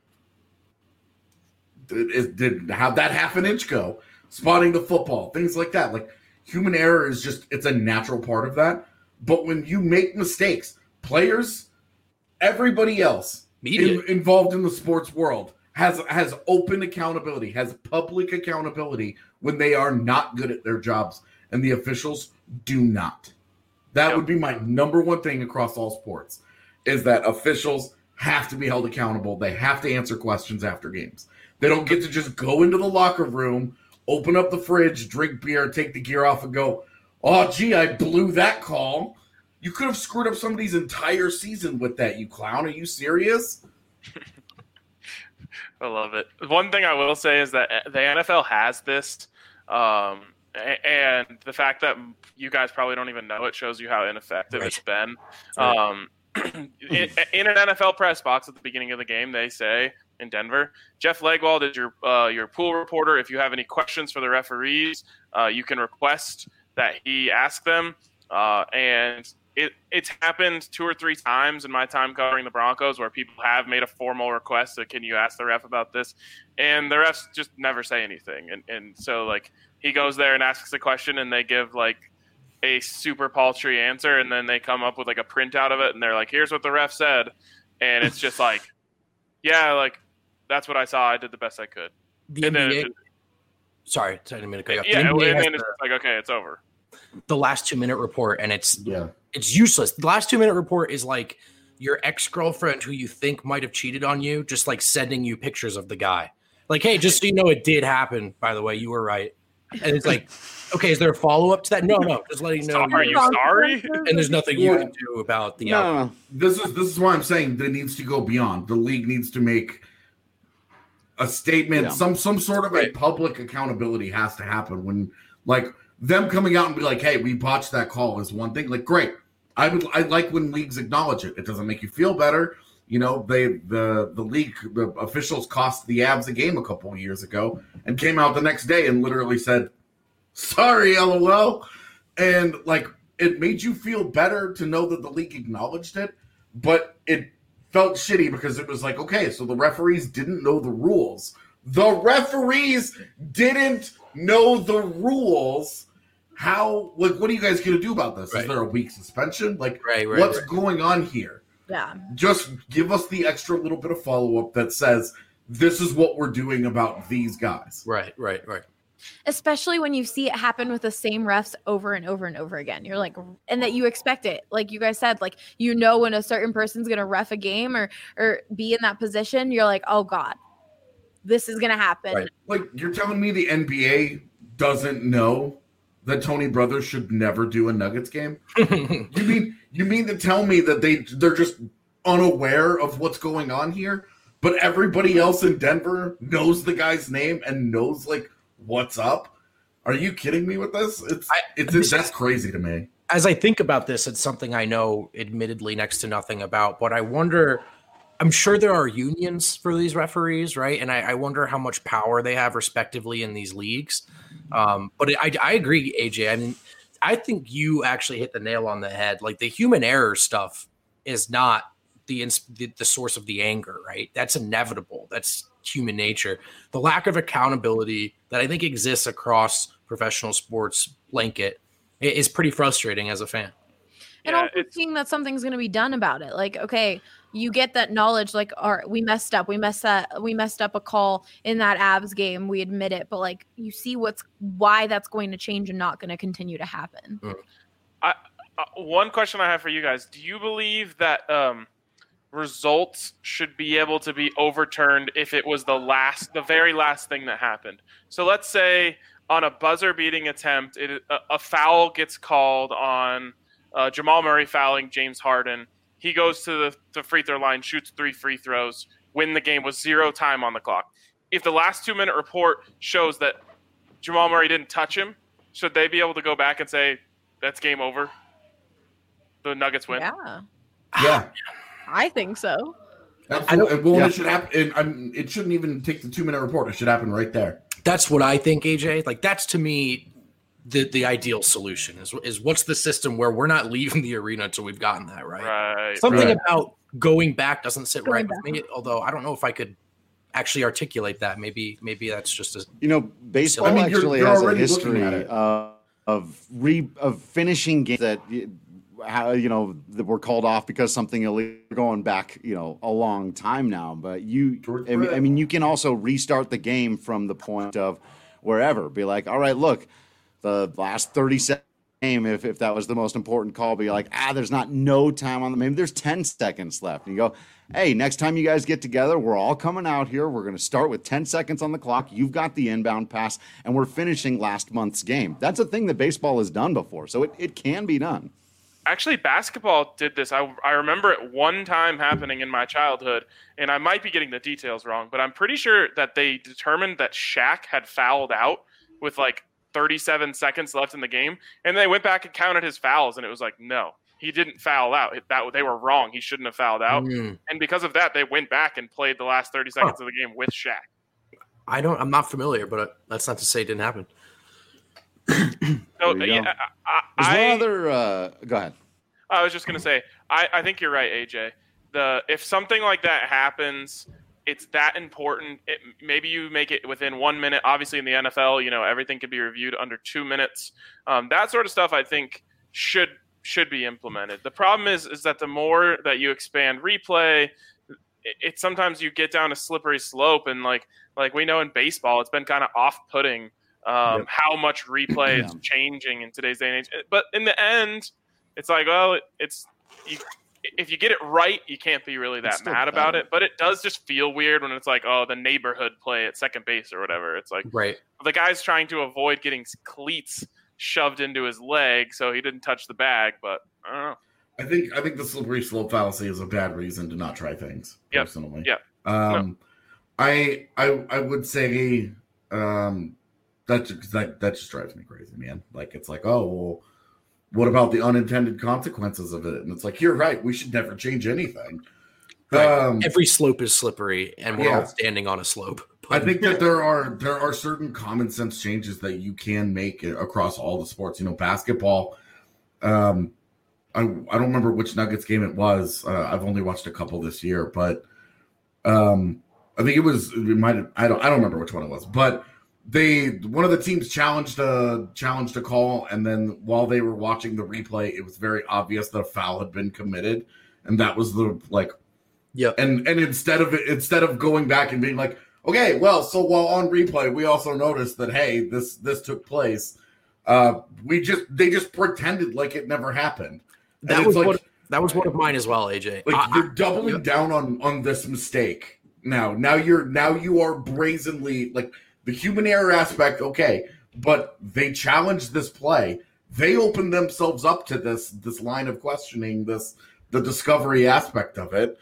did, did how'd that half an inch go? Spotting the football, things like that. Like, human error is just, it's a natural part of that. But when you make mistakes, players, everybody else in, involved in the sports world has has open accountability, has public accountability when they are not good at their jobs, and the officials do not. That yep. would be my number one thing across all sports, is that officials have to be held accountable. They have to answer questions after games. They don't get to just go into the locker room, open up the fridge, drink beer, take the gear off, and go, oh, gee, I blew that call. You could have screwed up somebody's entire season with that, you clown. Are you serious? I love it. One thing I will say is that the N F L has this, um, and the fact that you guys probably don't even know it shows you how ineffective right. it's been. Right. Um, in, in an N F L press box at the beginning of the game, they say in Denver, Jeff Legwold is your uh, your pool reporter. If you have any questions for the referees, uh, you can request that he ask them. Uh, and it it's happened two or three times in my time covering the Broncos where people have made a formal request that, can you ask the ref about this? And the refs just never say anything. And and so, like, he goes there and asks a question, and they give, like, a super paltry answer, and then they come up with, like, a printout of it, and they're like, here's what the ref said. And it's just like, yeah, like, that's what I saw. I did the best I could. The and N B A, then, sorry, I didn't mean to cut you off. Yeah, the and N B A then has it's like, okay, it's over. The last two minute report, and it's yeah, it's useless. The last two minute report is like your ex-girlfriend who you think might have cheated on you, just like sending you pictures of the guy. Like, hey, just so you know, it did happen, by the way, you were right. And it's like, okay, is there a follow-up to that? No, no, just letting you know. Are you sorry? And there's nothing you can do about the no, outcome. no, no. This is this is why I'm saying that it needs to go beyond. The league needs to make a statement. Yeah. Some some sort of a public accountability has to happen. When, like, them coming out and be like, hey, we botched that call is one thing. Like, great. I would I like when leagues acknowledge it. It doesn't make you feel better. You know, they the the league the officials cost the Avs a game a couple of years ago and came out the next day and literally said, sorry, LOL. And, like, it made you feel better to know that the league acknowledged it, but it felt shitty because it was like, okay, so the referees didn't know the rules. The referees didn't know the rules. How, like, what are you guys going to do about this? Right. Is there a week suspension? Like, right, right, what's right. going on here? Yeah. Just give us the extra little bit of follow-up that says, this is what we're doing about these guys. Right, right, right. Especially when you see it happen with the same refs over and over and over again. You're like, and that you expect it. Like you guys said, like, you know, when a certain person's going to ref a game or, or be in that position, you're like, oh God, this is going to happen. Right. Like, you're telling me the N B A doesn't know that Tony Brothers should never do a Nuggets game? you mean you mean to tell me that they they're just unaware of what's going on here, but everybody else in Denver knows the guy's name and knows, like, what's up? Are you kidding me with this? It's I, it's, it's that's crazy to me. As I think about this, it's something I know admittedly next to nothing about, but I wonder, I'm sure there are unions for these referees, right? And I, I wonder how much power they have respectively in these leagues. Um, but I, I agree, A J. I mean, I think you actually hit the nail on the head. Like, the human error stuff is not the, the the source of the anger, right? That's inevitable. That's human nature. The lack of accountability that I think exists across professional sports blanket is pretty frustrating as a fan. And Yeah, also it's- seeing that something's going to be done about it. Like, okay, you get that knowledge, like, all right, we messed up. We messed that. We messed up a call in that Avs game. We admit it, but, like, you see what's why that's going to change and not going to continue to happen. I, uh, one question I have for you guys: do you believe that um, results should be able to be overturned if it was the last, the very last thing that happened? So let's say on a buzzer-beating attempt, it, a, a foul gets called on uh, Jamal Murray fouling James Harden. He goes to the, the free throw line, shoots three free throws, win the game with zero time on the clock. If the last two-minute report shows that Jamal Murray didn't touch him, should they be able to go back and say, that's game over? The Nuggets win? Yeah, Yeah. I think so. Absolutely. Well, yeah. it should happen. It, I'm, it shouldn't even take the two minute report. It should happen right there. That's what I think, A J. Like, that's to me the the ideal solution is is what's the system where we're not leaving the arena until we've gotten that right. Right. Something right. about going back doesn't sit Going right back. with me. Although I don't know if I could actually articulate that. Maybe maybe that's just a You know, baseball I mean, you're- actually you're has a already looking history at it. uh, of re of finishing games that y- how you know that were called off because something illegal. Going back, you know, a long time now. But you, George I mean, Brett. I mean, you can also restart the game from the point of wherever. Be like, all right, look, the last thirty seconds. Game, if, if that was the most important call, be like, ah, there's not no time on the maybe there's ten seconds left. And you go, hey, next time you guys get together, we're all coming out here. We're going to start with ten seconds on the clock. You've got the inbound pass, and we're finishing last month's game. That's a thing that baseball has done before, so it, it can be done. Actually, basketball did this. I, I remember it one time happening in my childhood, and I might be getting the details wrong, but I'm pretty sure that they determined that Shaq had fouled out with like thirty-seven seconds left in the game, and they went back and counted his fouls, and it was like, no, he didn't foul out. It, that they were wrong. He shouldn't have fouled out, Mm. and because of that, they went back and played the last thirty seconds of the game with Shaq. I don't I'm not familiar, but that's not to say it didn't happen. So There you yeah, go. I, There's I, one other. Uh, go ahead. I was just gonna say, I, I think you're right, A J. The if something like that happens, it's that important. It, maybe you make it within one minute. Obviously, in the N F L, you know everything can be reviewed under two minutes. Um, that sort of stuff, I think, should should be implemented. The problem is, is that the more that you expand replay, it, it sometimes you get down a slippery slope, and like like we know in baseball, it's been kind of off-putting um, Yep. how much replay is Yeah. changing in today's day and age. But in the end, it's like, well, it, it's you, if you get it right, you can't be really It's that still mad about better. it. But it does just feel weird when it's like, oh, the neighborhood play at second base or whatever. It's like Right. the guy's trying to avoid getting cleats shoved into his leg, so he didn't touch the bag. But I don't know. I think I think the slippery slope fallacy is a bad reason to not try things. Yep. Personally, Yep. Um, I I I would say um, that just- that that just drives me crazy, man. Like it's like, oh well, what about the unintended consequences of it? And it's like, you're right. We should never change anything. Right. Um, Every slope is slippery, and we're Yeah. all standing on a slope. I think that there are there are certain common sense changes that you can make across all the sports. You know, basketball. Um, I I don't remember which Nuggets game it was. Uh, I've only watched a couple this year, but um, I think it was. It might. Have, I don't. I don't remember which one it was, but they one of the teams challenged a challenged a call, and then while they were watching the replay, it was very obvious that a foul had been committed, and that was the like. Yeah. And and instead of it, instead of going back and being like, okay, well, so while on replay, we also noticed that hey, this this took place. Uh, we just they just pretended like it never happened. And That it's was like, what that was one of mine as well, A J. like I- you're doubling down on on this mistake now. Now you're now you are brazenly like the human error aspect. Okay, but they challenged this play. They opened themselves up to this this line of questioning, this the discovery aspect of it.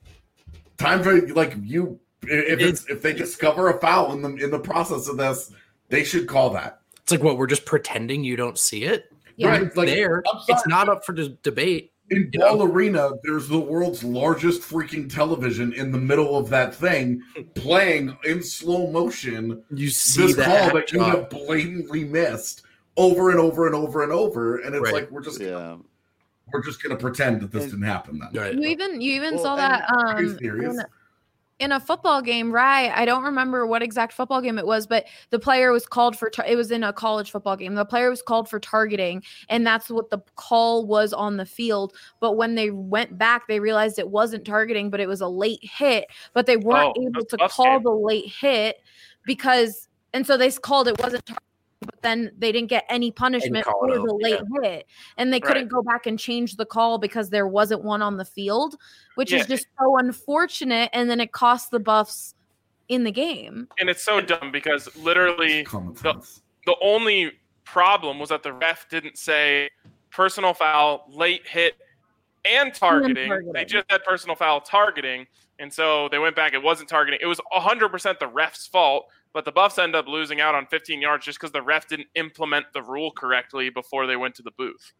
Time for like you if it's, if they discover a foul in the in the process of this, they should call that. It's like what we're just pretending you don't see it. Yeah. Right, It's like, there. I'm sorry. It's not up for d- debate. In You Ball know? Arena, there's the world's largest freaking television in the middle of that thing playing in slow motion You see this that call that you shot. have blatantly missed over and over and over and over. And it's Right. like we're just Yeah. we're just gonna pretend that this And- didn't happen then. Right. You even you even Well, saw and that Are you um serious? in, in a football game, right? I don't remember what exact football game it was, but the player was called for tar- it was in a college football game. The player was called for targeting, and that's what the call was on the field. But when they went back, they realized it wasn't targeting, but it was a late hit. But they weren't Oh, able that's to Buffs call game. the late hit because, and so they called it wasn't targeting. But then they didn't get any punishment call for it out, the late hit, and they couldn't Right. go back and change the call because there wasn't one on the field, which Yeah. is just so unfortunate. And then it cost the Buffs in the game. And it's so dumb because literally Common the, sense. the only problem was that the ref didn't say personal foul, late hit, and targeting. targeting. They just had personal foul targeting. And so they went back. It wasn't targeting. It was one hundred percent the ref's fault. But the Buffs end up losing out on fifteen yards just because the ref didn't implement the rule correctly before they went to the booth.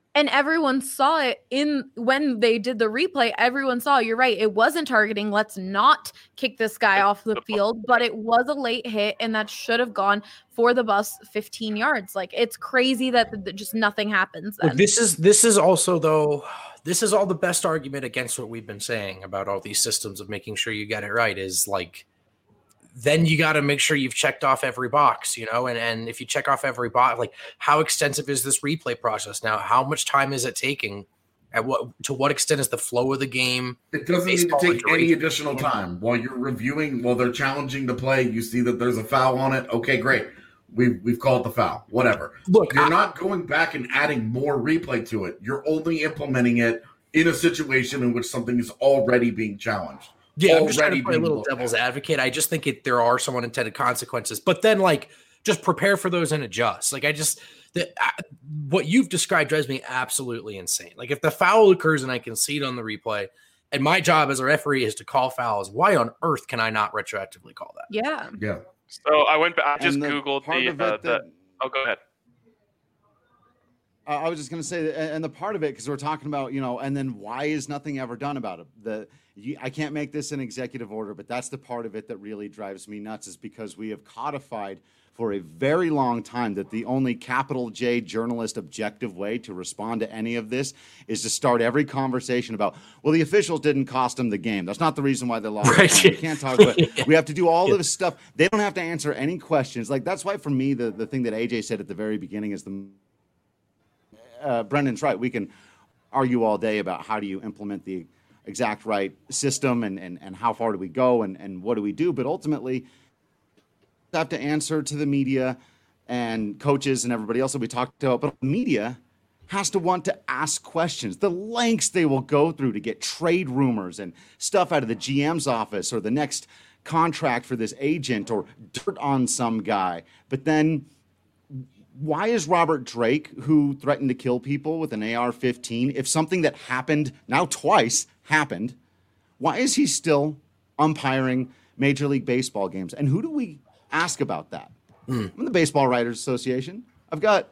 And everyone saw it in when they did the replay. Everyone saw, you're right. It wasn't targeting. Let's not kick this guy off the field, but it was a late hit and that should have gone for the bus fifteen yards. Like, it's crazy that th- just nothing happens then. Look, this is this is also though this is all the best argument against what we've been saying about all these systems of making sure you get it right is like, then you got to make sure you've checked off every box, you know, and, and if you check off every box, like how extensive is this replay process now? How much time is it taking? At what, to what extent is the flow of the game? It doesn't need to take any additional time while you're reviewing, while they're challenging the play. You see that there's a foul on it. Okay, great. We've, we've called the foul, whatever. Look, you're I, not going back and adding more replay to it. You're only implementing it in a situation in which something is already being challenged. Yeah, I'm just trying to play a little devil's advocate. I just think it, there are some unintended consequences, but then like just prepare for those and adjust. Like I just the, I, what you've described drives me absolutely insane. Like if the foul occurs and I can see it on the replay, and my job as a referee is to call fouls, why on earth can I not retroactively call that? Yeah, yeah. So I went. I just the googled the. Uh, that, the oh, go ahead. I was just going to say, and the part of it, because we're talking about, you know, and then why is nothing ever done about it? The you, I can't make this an executive order, but that's the part of it that really drives me nuts is because we have codified for a very long time that the only capital J journalist objective way to respond to any of this is to start every conversation about, well, the officials didn't cost them the game. That's not the reason why they lost. Right. The game. We can't talk about it. Yeah. We have to do all Yeah. of this stuff. They don't have to answer any questions. Like, that's why for me, the, the thing that A J said at the very beginning is the Uh, Brendan's right. We can argue all day about how do you implement the exact right system and, and, and how far do we go and, and what do we do. But ultimately, we have to answer to the media and coaches and everybody else that we talked about. But the media has to want to ask questions. The lengths they will go through to get trade rumors and stuff out of the G M's office or the next contract for this agent or dirt on some guy. But then why is Robert Drake, who threatened to kill people with an A R fifteen, if something that happened now twice happened, why is he still umpiring Major League Baseball games? And who do we ask about that? Mm. I'm the Baseball Writers Association. I've got,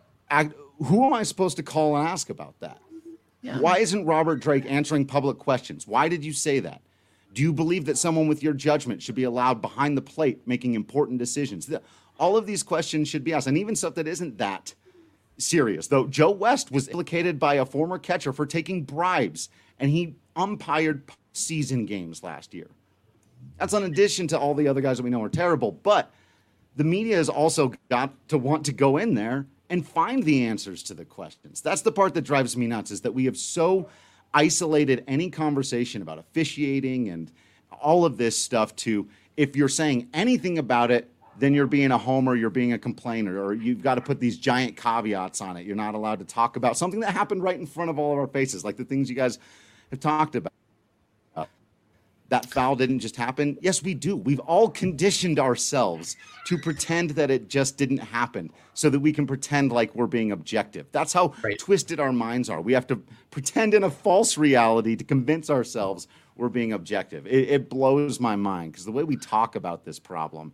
who am I supposed to call and ask about that? Yeah. Why isn't Robert Drake answering public questions? Why did you say that? Do you believe that someone with your judgment should be allowed behind the plate making important decisions? The, All of these questions should be asked, and even stuff that isn't that serious. Though Joe West was implicated by a former catcher for taking bribes, and he umpired season games last year. That's in addition to all the other guys that we know are terrible. But the media has also got to want to go in there and find the answers to the questions. That's the part that drives me nuts, is that we have so isolated any conversation about officiating and all of this stuff to, if you're saying anything about it, then you're being a homer, you're being a complainer, or you've got to put these giant caveats on it. You're not allowed to talk about something that happened right in front of all of our faces, like the things you guys have talked about. Uh, that foul didn't just happen. Yes, we do. We've all conditioned ourselves to pretend that it just didn't happen so that we can pretend like we're being objective. That's how right. twisted our minds are. We have to pretend in a false reality to convince ourselves we're being objective. It, it blows my mind because the way we talk about this problem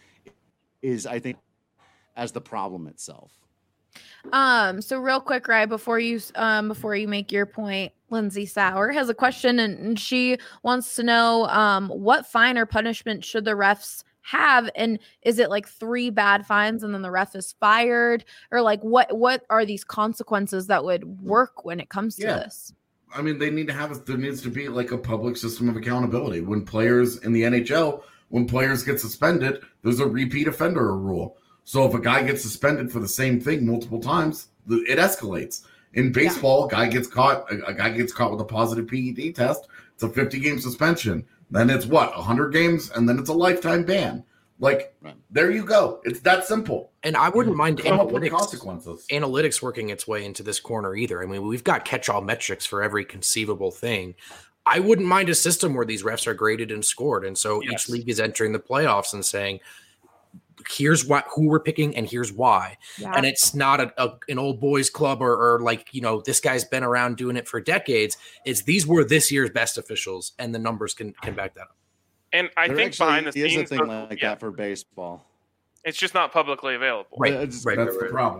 is, I think, as the problem itself. Um, so real quick, right before you um before you make your point, Lindsay Sauer has a question, and, and she wants to know um what fine or punishment should the refs have, and is it like three bad fines and then the ref is fired, or like what what are these consequences that would work when it comes to yeah. this? I mean, they need to have there needs to be like a public system of accountability. When players in the N H L, when players get suspended, there's a repeat offender rule. So if a guy gets suspended for the same thing multiple times, it escalates. In baseball, yeah. a guy gets caught. A, a guy gets caught with a positive P E D test. It's a fifty-game suspension. Then it's what one hundred games, and then it's a lifetime ban. Like right. there you go. It's that simple. And I wouldn't mind analytics, consequences. analytics working its way into this corner either. I mean, we've got catch-all metrics for every conceivable thing. I wouldn't mind a system where these refs are graded and scored. And so yes. each league is entering the playoffs and saying, here's what who we're picking and here's why. Yeah. And it's not a, a an old boys club or, or like, you know, this guy's been around doing it for decades. It's these were this year's best officials, and the numbers can, can back that up. And I there think behind the scenes, is a thing so, like yeah. that for baseball. It's just not publicly available. Right, it's, right That's right, the right. problem.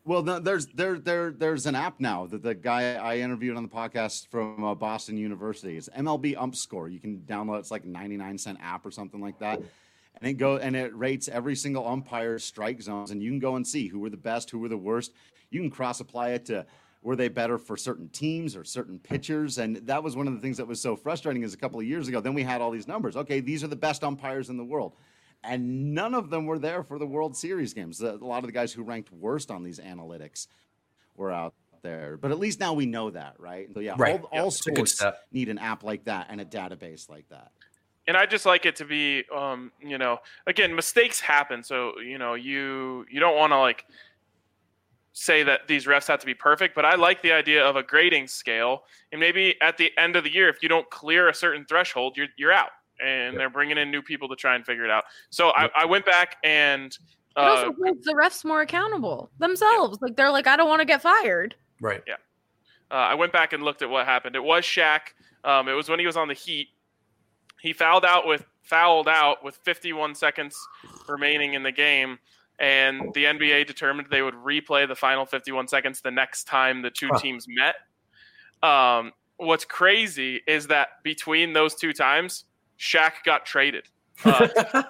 Well, no, there's there there there's an app now that the guy I interviewed on the podcast from uh, Boston University. It's M L B Ump Score. You can download. It's like ninety-nine cent app or something like that, and it go and it rates every single umpire's strike zones, and you can go and see who were the best, who were the worst. You can cross apply it to were they better for certain teams or certain pitchers, and that was one of the things that was so frustrating. Is a couple of years ago, then we had all these numbers. Okay, these are the best umpires in the world. And none of them were there for the World Series games. A lot of the guys who ranked worst on these analytics were out there. But at least now we know that, right? So, yeah, right. all, yeah, all sports need an app like that and a database like that. And I just like it to be, um, you know, again, mistakes happen. So, you know, you you don't want to, like, say that these refs have to be perfect. But I like the idea of a grading scale. And maybe at the end of the year, if you don't clear a certain threshold, you're you're out. And yep. they're bringing in new people to try and figure it out. So yep. I, I went back and uh, it also holds the refs more accountable themselves. Yeah. Like they're like, I don't want to get fired. Right. Yeah. Uh, I went back and looked at what happened. It was Shaq. Um, it was when he was on the Heat. He fouled out with fouled out with fifty-one seconds remaining in the game, and the N B A determined they would replay the final fifty-one seconds the next time the two huh. teams met. Um, what's crazy is that between those two times, Shaq got traded. Uh,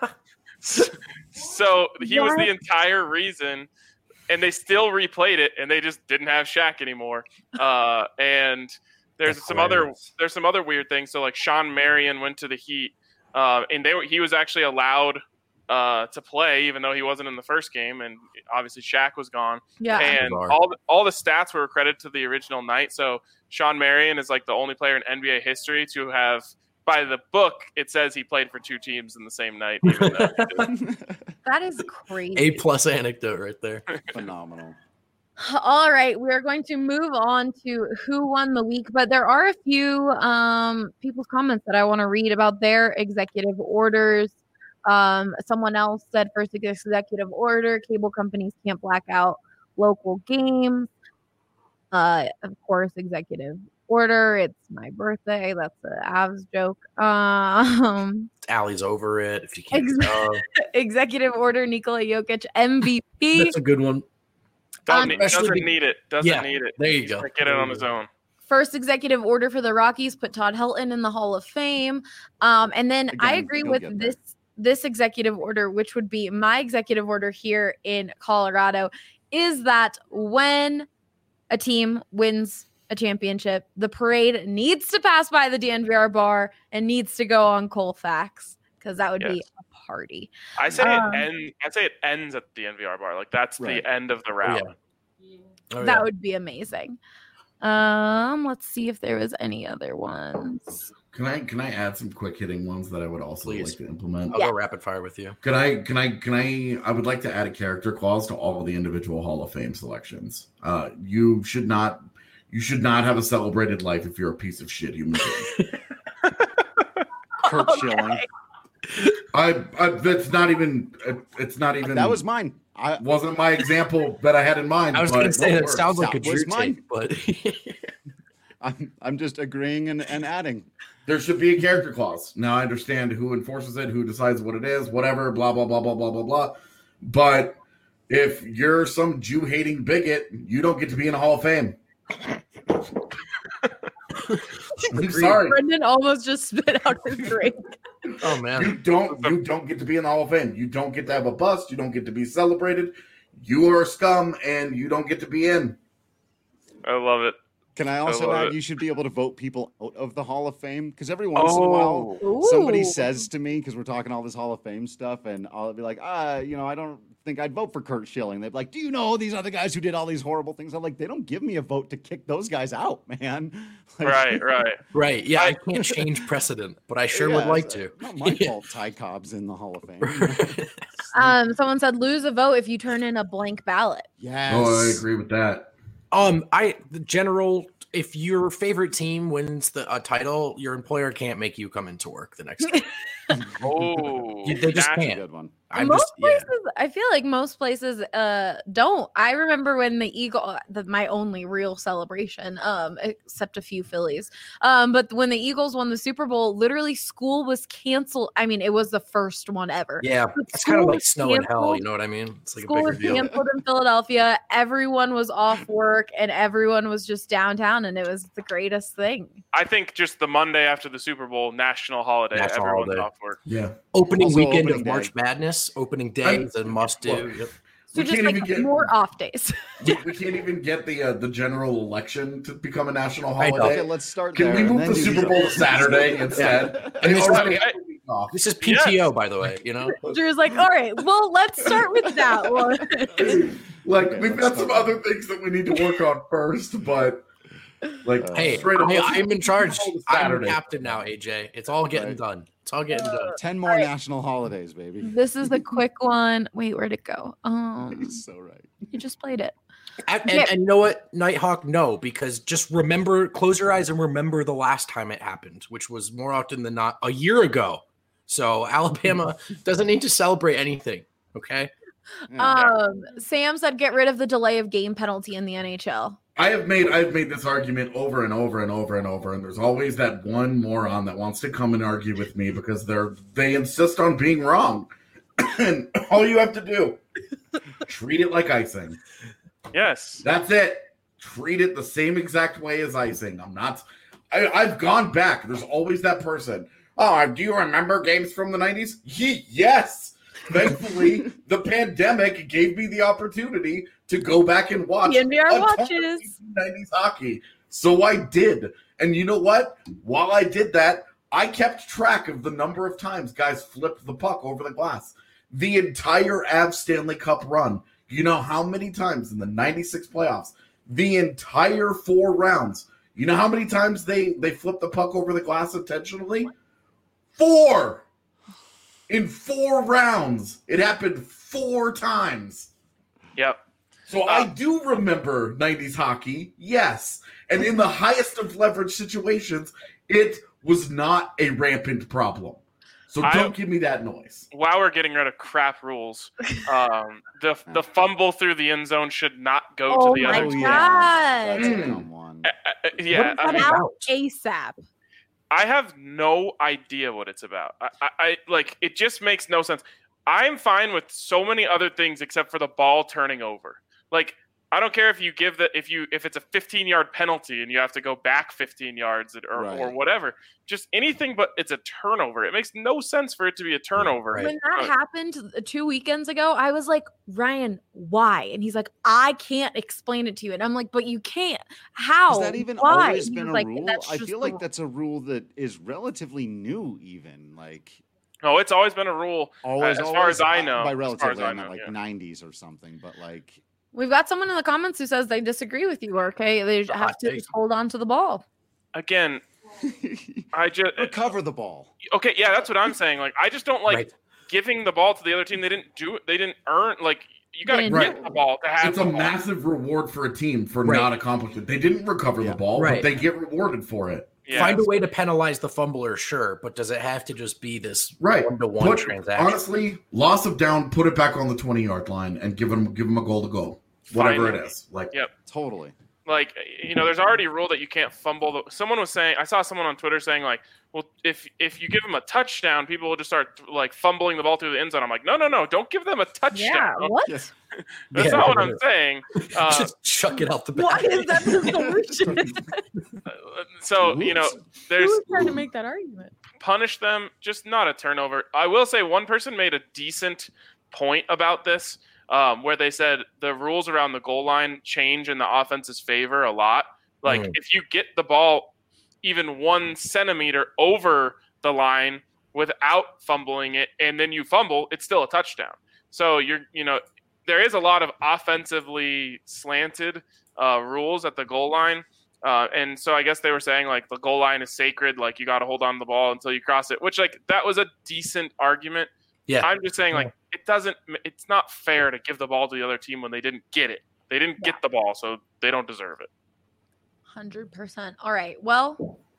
so he was the entire reason, and they still replayed it, and they just didn't have Shaq anymore. Uh, and there's That's some hilarious. other there's some other weird things. So like Sean Marion went to the Heat, uh, and they were, he was actually allowed uh, to play even though he wasn't in the first game, and obviously Shaq was gone. Yeah, and all the, all the stats were credited to the original night. So Sean Marion is like the only player in N B A history to have. By the book, it says he played for two teams in the same night. Even though that is crazy. A plus anecdote right there. Phenomenal. All right, we are going to move on to who won the week, but there are a few um, people's comments that I want to read about their executive orders. Um, someone else said first executive order, cable companies can't black out local games. Uh, of course, executive order. It's my birthday. That's the Avs joke. Um, Allie's over it. If you can't ex- uh, executive order. Nikola Jokic M V P. That's a good one. Um, doesn't be- need it. Doesn't yeah, need it. There you go. Get it on his own. First executive order for the Rockies put Todd Helton in the Hall of Fame. Um, and then Again, I agree with this this executive order, which would be my executive order here in Colorado, is that when a team wins a championship, the parade needs to pass by the D N V R bar and needs to go on Colfax because that would yes. be a party. I say um, it end, I say it ends at the D N V R bar. Like that's right. the end of the route. Oh, yeah. Oh, that yeah. would be amazing. Um, let's see if there was any other ones. Can I can I add some quick hitting ones that I would also Please. like to implement? I'll yeah. go rapid fire with you. Can I can I can I I would like to add a character clause to all of the individual Hall of Fame selections. Uh, you should not you should not have a celebrated life if you're a piece of shit human being. Kurt Schilling. I, I that's not even it's not even that was mine. I wasn't my example that I had in mind. I was going to say it sounds like a Drew take, but I'm I'm just agreeing and, and adding. There should be a character clause. Now I understand who enforces it, who decides what it is, whatever, blah blah blah blah blah blah blah. But if you're some Jew hating bigot, you don't get to be in the Hall of Fame. I'm sorry. Brendan almost just spit out his drink. Oh man. You don't you don't get to be in the Hall of Fame. You don't get to have a bust. You don't get to be celebrated. You are a scum and you don't get to be in. I love it. Can I also I add it. you should be able to vote people out of the Hall of Fame? Because every once oh. in a while Ooh. somebody says to me, because we're talking all this Hall of Fame stuff, and I'll be like, ah, you know, I don't think I'd vote for Kurt Schilling. They'd be like, do you know these other guys who did all these horrible things? I'm like, they don't give me a vote to kick those guys out, man. Like, right, right. Right. Yeah, I can't change precedent, but I sure yeah, would like to. Not my fault Ty Cobb's in the Hall of Fame. um, someone said lose a vote if you turn in a blank ballot. Yes. Oh, I agree with that. Um, I the general if your favorite team wins the uh, title, your employer can't make you come into work the next day. Oh, You- they just that's- That's a can't. good one. I'm most just, yeah. places, I feel like most places uh don't. I remember when the Eagle, the, my only real celebration, um, except a few Phillies, um, but when the Eagles won the Super Bowl, literally school was canceled. I mean, it was the first one ever. Yeah, But it's kind of school like was snow in hell. canceled. You know what I mean? It's like School a bigger was deal. canceled in Philadelphia. Everyone was off work, and everyone was just downtown, and it was the greatest thing. I think just the Monday after the Super Bowl, national holiday, National everyone's holiday. off work. Yeah. Opening Also weekend opening of day. March Madness. Opening day I'm- is a must do. Well, Yep. So We just can't like even get- more off days. We, we can't even get the uh, the general election to become a national I know. holiday. Okay, let's start Can there. we and move then the do Super the- Bowl to Saturday instead? And They this already is- have a week off. This is P T O, by the way. You know, Drew's like, all right, well, let's start with that one. Like Okay, we've let's got some start. other things that we need to work on first, but like Uh, hey, straight up, I, let's I'm in charge. Super Bowl to I'm the Saturday. captain now, A J. It's all getting Right. done. It's all getting done. ten more Alright. national holidays, baby. This is the quick one. Wait, where'd it go? Um, He's so right. you just played it. And, Yeah. and, and you know what, Nighthawk? No, because just remember, close your eyes and remember the last time it happened, which was more often than not a year ago. So Alabama doesn't need to celebrate anything. Okay. Yeah. Um, Sam said get rid of the delay of game penalty in the N H L. I have made I've made this argument over and over and over and over, and there's always that one moron that wants to come and argue with me because they're they insist on being wrong. And all you have to do, treat it like icing. Yes. That's it. Treat it the same exact way as icing. I'm not. I, I've gone back. There's always that person. Oh, do you remember games from the nineties? Ye- yes. Thankfully, the pandemic gave me the opportunity to go back and watch The N B R a ton of watches. nineties hockey. So I did. And you know what? While I did that, I kept track of the number of times guys flipped the puck over the glass. The entire Avs Stanley Cup run. You know how many times in the ninety-six playoffs, the entire four rounds, you know how many times they, they flipped the puck over the glass intentionally? Four! In four rounds. It happened four times. Yep. So I do remember nineties hockey, yes. And in the highest of leverage situations, it was not a rampant problem. So I- don't give me that noise. While we're getting rid of crap rules, um, the the fumble through the end zone should not go Oh to the my other Oh, team. yeah. That's a Mm. dumb one. Uh, uh, yeah, What I is mean, that Out about? ASAP. I have no idea what it's about. I, I, I like it just makes no sense. I'm fine with so many other things except for the ball turning over. Like I don't care if you give the if you if it's a fifteen yard penalty and you have to go back fifteen yards or Right. or whatever. Just anything but it's a turnover. It makes no sense for it to be a turnover. Right. When that Uh, happened two weekends ago, I was like, Ryan, why? And he's like, I can't explain it to you. And I'm like, but you can't. How? Has that even why? always And he been was a like, rule? "That's I just feel the like rule." that's a rule that is relatively new, even like No, it's always been a rule. always. as always, far as I uh, know, by as far relatively, as I I meant know, like yeah. nineties or something. But like, We've got someone in the comments who says they disagree with you, okay? They a have hot to take. hold on to the ball. Again, I just recover the ball. okay. Yeah, that's what I'm saying. Like I just don't like Right. giving the ball to the other team. They didn't do it. They didn't earn. Like you got to They get didn't. the ball to have It's the a ball. massive reward for a team for Right. not accomplishing it. They didn't recover Yeah. the ball, Right. but they get rewarded for it. Yeah. Find a way to penalize the fumbler, sure, but does it have to just be this Right. one to one Put- transaction? Honestly, loss of down, put it back on the twenty yard line and give them give them a goal to go. Whatever Finally. it is. Like Yep. Totally. Like you know, there's already a rule that you can't fumble. The, someone was saying, I saw someone on Twitter saying like, well, if if you give them a touchdown, people will just start like fumbling the ball through the end zone. I'm like, no, no, no, don't give them a touchdown. Yeah, what? Yes. That's Yeah. not what I'm saying. Uh, just chuck it out the Why back. is that the solution? so you know, there's Who's trying to make that argument? punish them, just not a turnover. I will say one person made a decent point about this, um, where they said the rules around the goal line change in the offense's favor a lot. Like Mm. if you get the ball even one centimeter over the line without fumbling it, and then you fumble, it's still a touchdown. So you're, you know, there is a lot of offensively slanted uh, rules at the goal line. Uh, and so I guess they were saying like the goal line is sacred, like you got to hold on to the ball until you cross it, which like that was a decent argument. Yeah. I'm just saying like it doesn't, it's not fair to give the ball to the other team when they didn't get it. They didn't get the ball, so they don't deserve it. one hundred percent. All right. Well,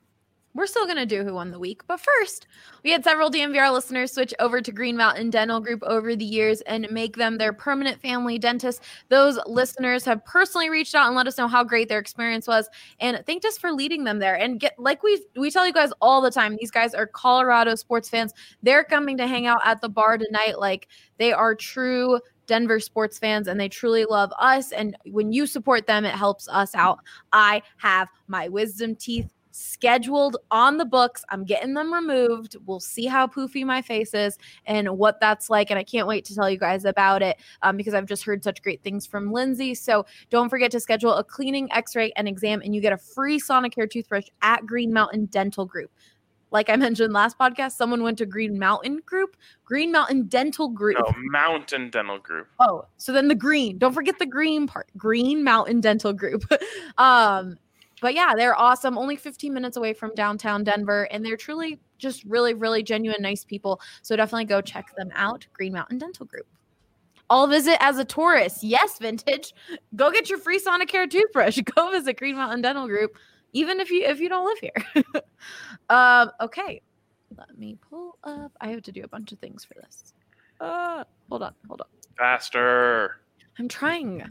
We're still going to do Who Won the Week. But first, we had several D N V R listeners switch over to Green Mountain Dental Group over the years and make them their permanent family dentist. Those listeners have personally reached out and let us know how great their experience was and thanked us for leading them there. And get like we we tell you guys all the time, these guys are Colorado sports fans. They're coming to hang out at the bar tonight. Like, they are true Denver sports fans, and they truly love us. And when you support them, it helps us out. I have my wisdom teeth scheduled on the books. I'm getting them removed. We'll see how poofy my face is and what that's like. And I can't wait to tell you guys about it um, because I've just heard such great things from Lindsay. So don't forget to schedule a cleaning, x-ray, and exam, and you get a free Sonicare toothbrush at Green Mountain Dental Group. Like I mentioned last podcast, someone went to Green Mountain Group, Green Mountain Dental Group. No, Mountain Dental Group. Oh, so then the green. Don't forget the green part. Green Mountain Dental Group. um, But yeah, they're awesome. Only fifteen minutes away from downtown Denver. And they're truly just really, really genuine, nice people. So definitely go check them out. Green Mountain Dental Group. I'll visit as a tourist. Yes, Vintage. Go get your free Sonicare toothbrush. Go visit Green Mountain Dental Group, even if you if you don't live here. um, okay. Let me pull up. I have to do a bunch of things for this. Uh, hold on. Hold on. Faster. I'm trying.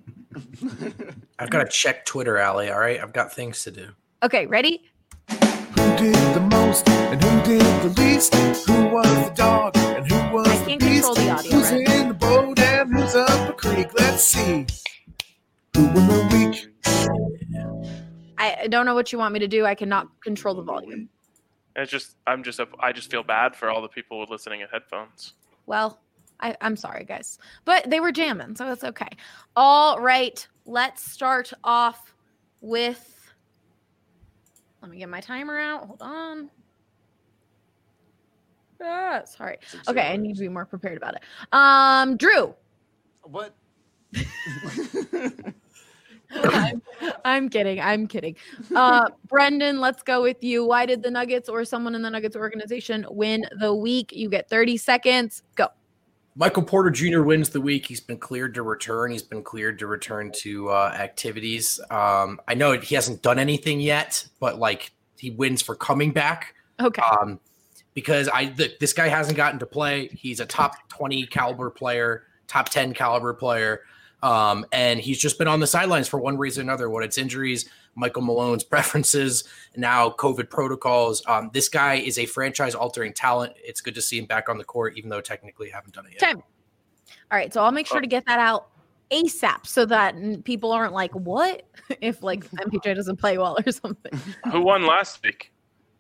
I've got to check Twitter, Allie. All right, I've got things to do. Okay, ready? Who did the most and who did the least? Who was the dog and who was I the can't beast? control the audio, Who's right? in the boat and who's up a creek? Let's see. Who won the week? I don't know what you want me to do. I cannot control the volume. It's just I'm just a, I just feel bad for all the people listening at headphones. Well, I, I'm sorry, guys. But they were jamming, so it's okay. All right, let's start off with... Let me get my timer out. Hold on. Ah, sorry. Okay, I need to be more prepared about it. Um, Drew. What? I'm, I'm kidding. I'm kidding. Uh, Brendan, let's go with you. Why did the Nuggets or someone in the Nuggets organization win the week? You get thirty seconds. Go. Michael Porter Junior wins the week. He's been cleared to return. He's been cleared to return to uh, activities. Um, I know he hasn't done anything yet, but like he wins for coming back. Okay. Um, because I th- this guy hasn't gotten to play. He's a top twenty caliber player, top ten caliber player. Um, and he's just been on the sidelines for one reason or another, whether it's injuries, Michael Malone's preferences, now COVID protocols. Um, this guy is a franchise-altering talent. It's good to see him back on the court, even though technically you haven't done it yet. Time. All right, so I'll make sure to get that out ASAP so that people aren't like, what? If, like, M P J doesn't play well or something. Who won last week?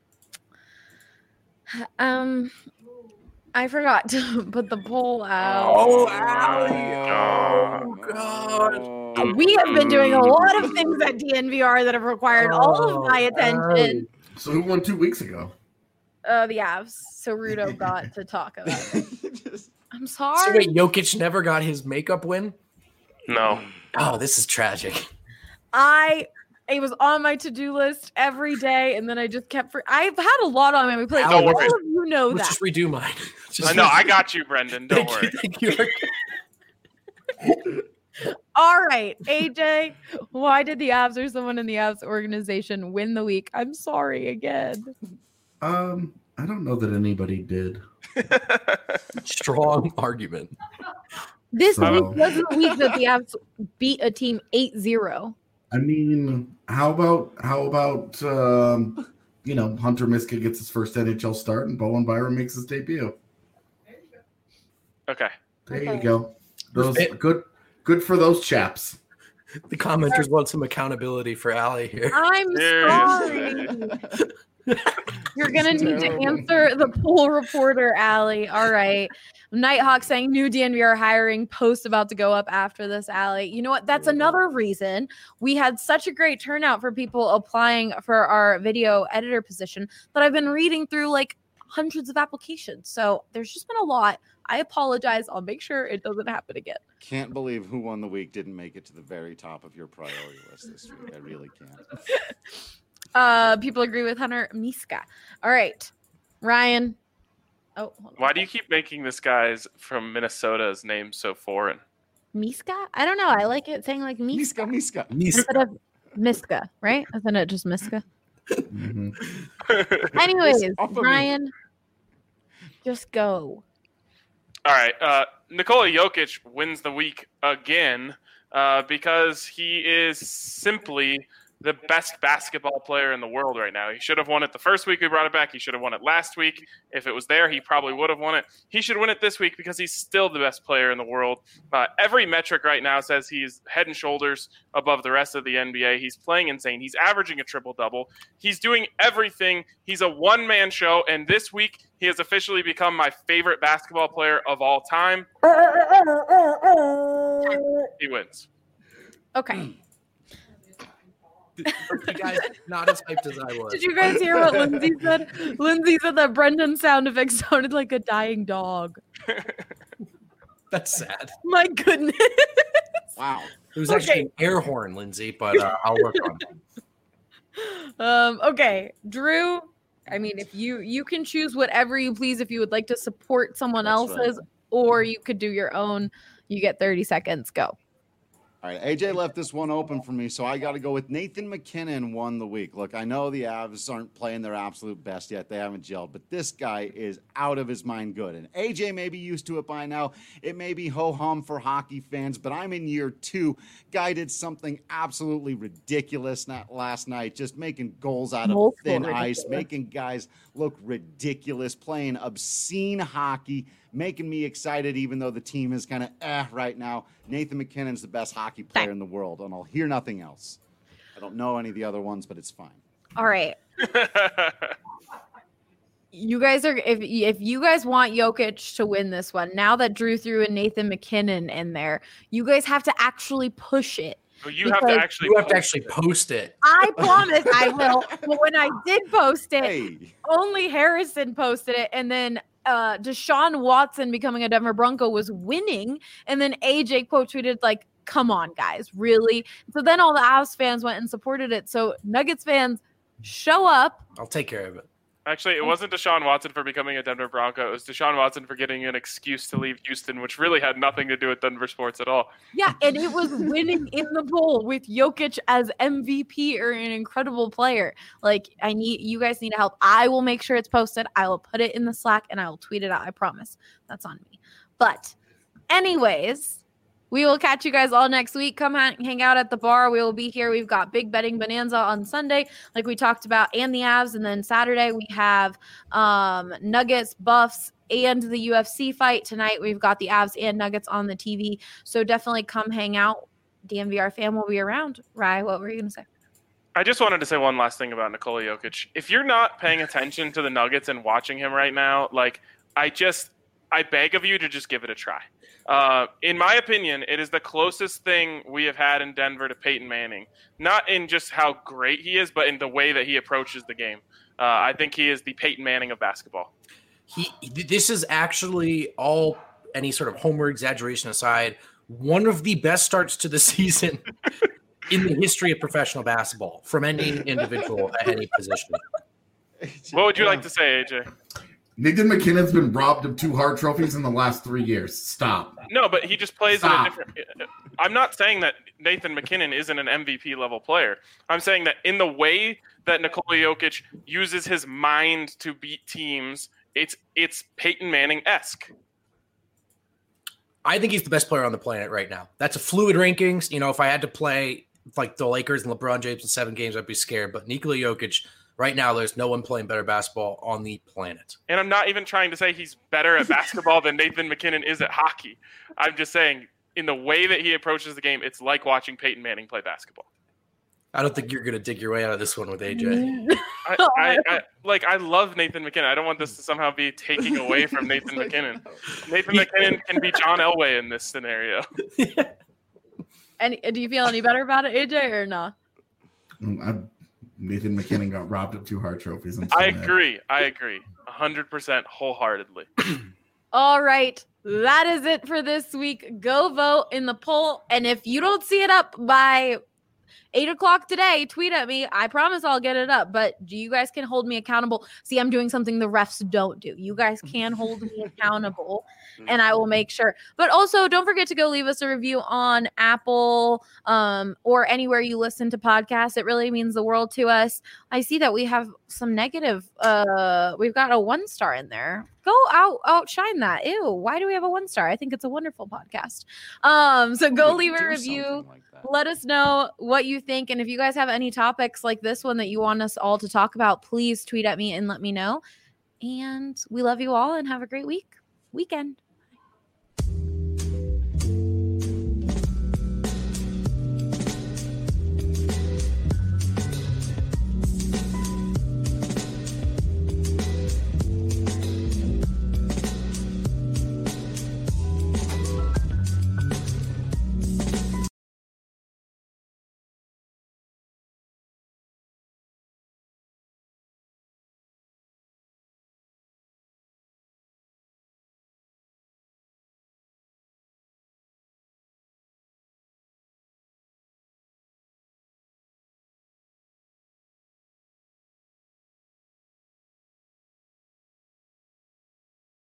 Um, I forgot to put the poll out. Oh, Allie. Oh, God. We have been doing a lot of things at D N V R that have required all of my attention. So who won two weeks ago? Uh, the Avs. So Rudo got to talk about it. I'm So sorry. wait, Jokic never got his makeup win? No. Oh, this is tragic. I it was on my to-do list every day, and then I just kept for I've had a lot on my plate. Don't All worry. of you know Let's that. just redo mine. Just I know. I got you, Brendan. Don't Thank worry. you, thank you. All right, A J, why did the Avs or someone in the Avs organization win the week? I'm sorry again. Um, I don't know that anybody did. Strong argument. This So- week was the week that the Avs beat a team eight zero. I mean, how about how about um, you know, Hunter Miska gets his first N H L start and Bowen Byram makes his debut. Okay. There Okay. you go. Those It- good good for those chaps. The commenters want some accountability for Allie here. I'm sorry. You're gonna need to answer the poll reporter, Allie. All right. Nighthawk saying new D N V R hiring post about to go up after this, Allie. You know what? That's another reason we had such a great turnout for people applying for our video editor position that I've been reading through like hundreds of applications. So there's just been a lot. I apologize. I'll make sure it doesn't happen again. Can't believe Who Won the Week didn't make it to the very top of your priority list this week. I really can't. Uh, people agree with Hunter Miska. All right, Ryan. Oh, hold on. Why do you keep making this guy's from Minnesota's name so foreign? Miska? I don't know. I like it saying like Miska Miska, Miska. instead of Miska, right? Isn't it just Miska? Mm-hmm. Anyways, Off of me. Ryan, just go. All right. Uh, Nikola Jokic wins the week again uh, because he is simply the best basketball player in the world right now. He should have won it the first week we brought it back. He should have won it last week. If it was there, he probably would have won it. He should win it this week because he's still the best player in the world. Uh, every metric right now says he's head and shoulders above the rest of the N B A. He's playing insane. He's averaging a triple-double. He's doing everything. He's a one-man show, and this week he has officially become my favorite basketball player of all time. He wins. Okay. You guys not as hyped as I was. Did you guys hear what Lindsay said? Lindsay said that Brendan's sound effect sounded like a dying dog. That's sad. My goodness. Wow. It was Okay. actually an air horn, Lindsay, but uh, I'll work on it. Um, okay, Drew. I mean, if you you can choose whatever you please if you would like to support someone That's else's, right. or you could do your own. You get thirty seconds. Go. All right, A J left this one open for me, so I got to go with Nathan McKinnon won the week. Look, I know the Avs aren't playing their absolute best yet. They haven't gelled, but this guy is out of his mind good. And A J may be used to it by now. It may be ho-hum for hockey fans, but I'm in year two. Guy did something absolutely ridiculous not last night, just making goals out of Multiple thin ridiculous. ice, making guys look ridiculous, playing obscene hockey, making me excited even though the team is kind of eh right now. Nathan McKinnon's the best hockey player in the world, and I'll hear nothing else. I don't know any of the other ones, but it's fine. All right. You guys are if if you guys want Jokic to win this one, now that Drew threw in Nathan McKinnon in there, you guys have to actually push it. Well, you have to Because actually You have to post actually it. post it. I promise I will. But when I did post it, Hey, only Harrison posted it, and then uh Deshaun Watson becoming a Denver Bronco was winning, and then A J quote tweeted like, "Come on, guys, really?" So then all the Avs fans went and supported it. So Nuggets fans, show up. I'll take care of it. Actually, it wasn't Deshaun Watson for becoming a Denver Bronco. It was Deshaun Watson for getting an excuse to leave Houston, which really had nothing to do with Denver sports at all. Yeah, and it was winning in the poll with Jokic as M V P or an incredible player. Like, I need you guys need help. I will make sure it's posted. I will put it in the Slack and I will tweet it out. I promise. That's on me. But anyways, we will catch you guys all next week. Come hang hang out at the bar. We will be here. We've got Big Betting Bonanza on Sunday, like we talked about, and the Avs. And then Saturday we have um, Nuggets, Buffs, and the U F C fight. Tonight we've got the Avs and Nuggets on the T V. So definitely come hang out. D M V R fam will be around. Rye, what were you going to say? I just wanted to say one last thing about Nikola Jokic. If you're not paying attention to the Nuggets and watching him right now, like I just, I beg of you to just give it a try. Uh, in my opinion, it is the closest thing we have had in Denver to Peyton Manning. Not in just how great he is, but in the way that he approaches the game. Uh, I think he is the Peyton Manning of basketball. He, this is actually all any sort of homer exaggeration aside, one of the best starts to the season in the history of professional basketball from any individual at any position. What would you like to say, A J? Nathan McKinnon's been robbed of two Hart trophies in the last three years. Stop. No, but he just plays Stop. in a different. I'm not saying that Nathan McKinnon isn't an M V P level player. I'm saying that in the way that Nikola Jokic uses his mind to beat teams, it's it's Peyton Manning-esque. I think he's the best player on the planet right now. That's a fluid rankings. You know, if I had to play like the Lakers and LeBron James in seven games, I'd be scared. But Nikola Jokic, right now, there's no one playing better basketball on the planet. And I'm not even trying to say he's better at basketball than Nathan McKinnon is at hockey. I'm just saying in the way that he approaches the game, it's like watching Peyton Manning play basketball. I don't think you're going to dig your way out of this one with A J. I, I, I like. I love Nathan McKinnon. I don't want this to somehow be taking away from Nathan McKinnon. Nathan McKinnon can be John Elway in this scenario. And do you feel any better about it, A J, or not? I, Nathan McKinnon got robbed of two Hart trophies. I'm I so mad. agree. I agree. one hundred percent wholeheartedly. All right. That is it for this week. Go vote in the poll. And if you don't see it up by eight o'clock today, tweet at me. I promise I'll get it up, but you guys can hold me accountable. See, I'm doing something the refs don't do. You guys can hold me accountable, and I will make sure. But also, don't forget to go leave us a review on Apple um, or anywhere you listen to podcasts. It really means the world to us. I see that we have some negative. Uh, we've got a one star in there. Go out, outshine that. Ew, why do we have a one star? I think it's a wonderful podcast. Um, so go leave a review. Like Let us know what you think. And if you guys have any topics like this one that you want us all to talk about, please tweet at me and let me know. And we love you all and have a great week, weekend.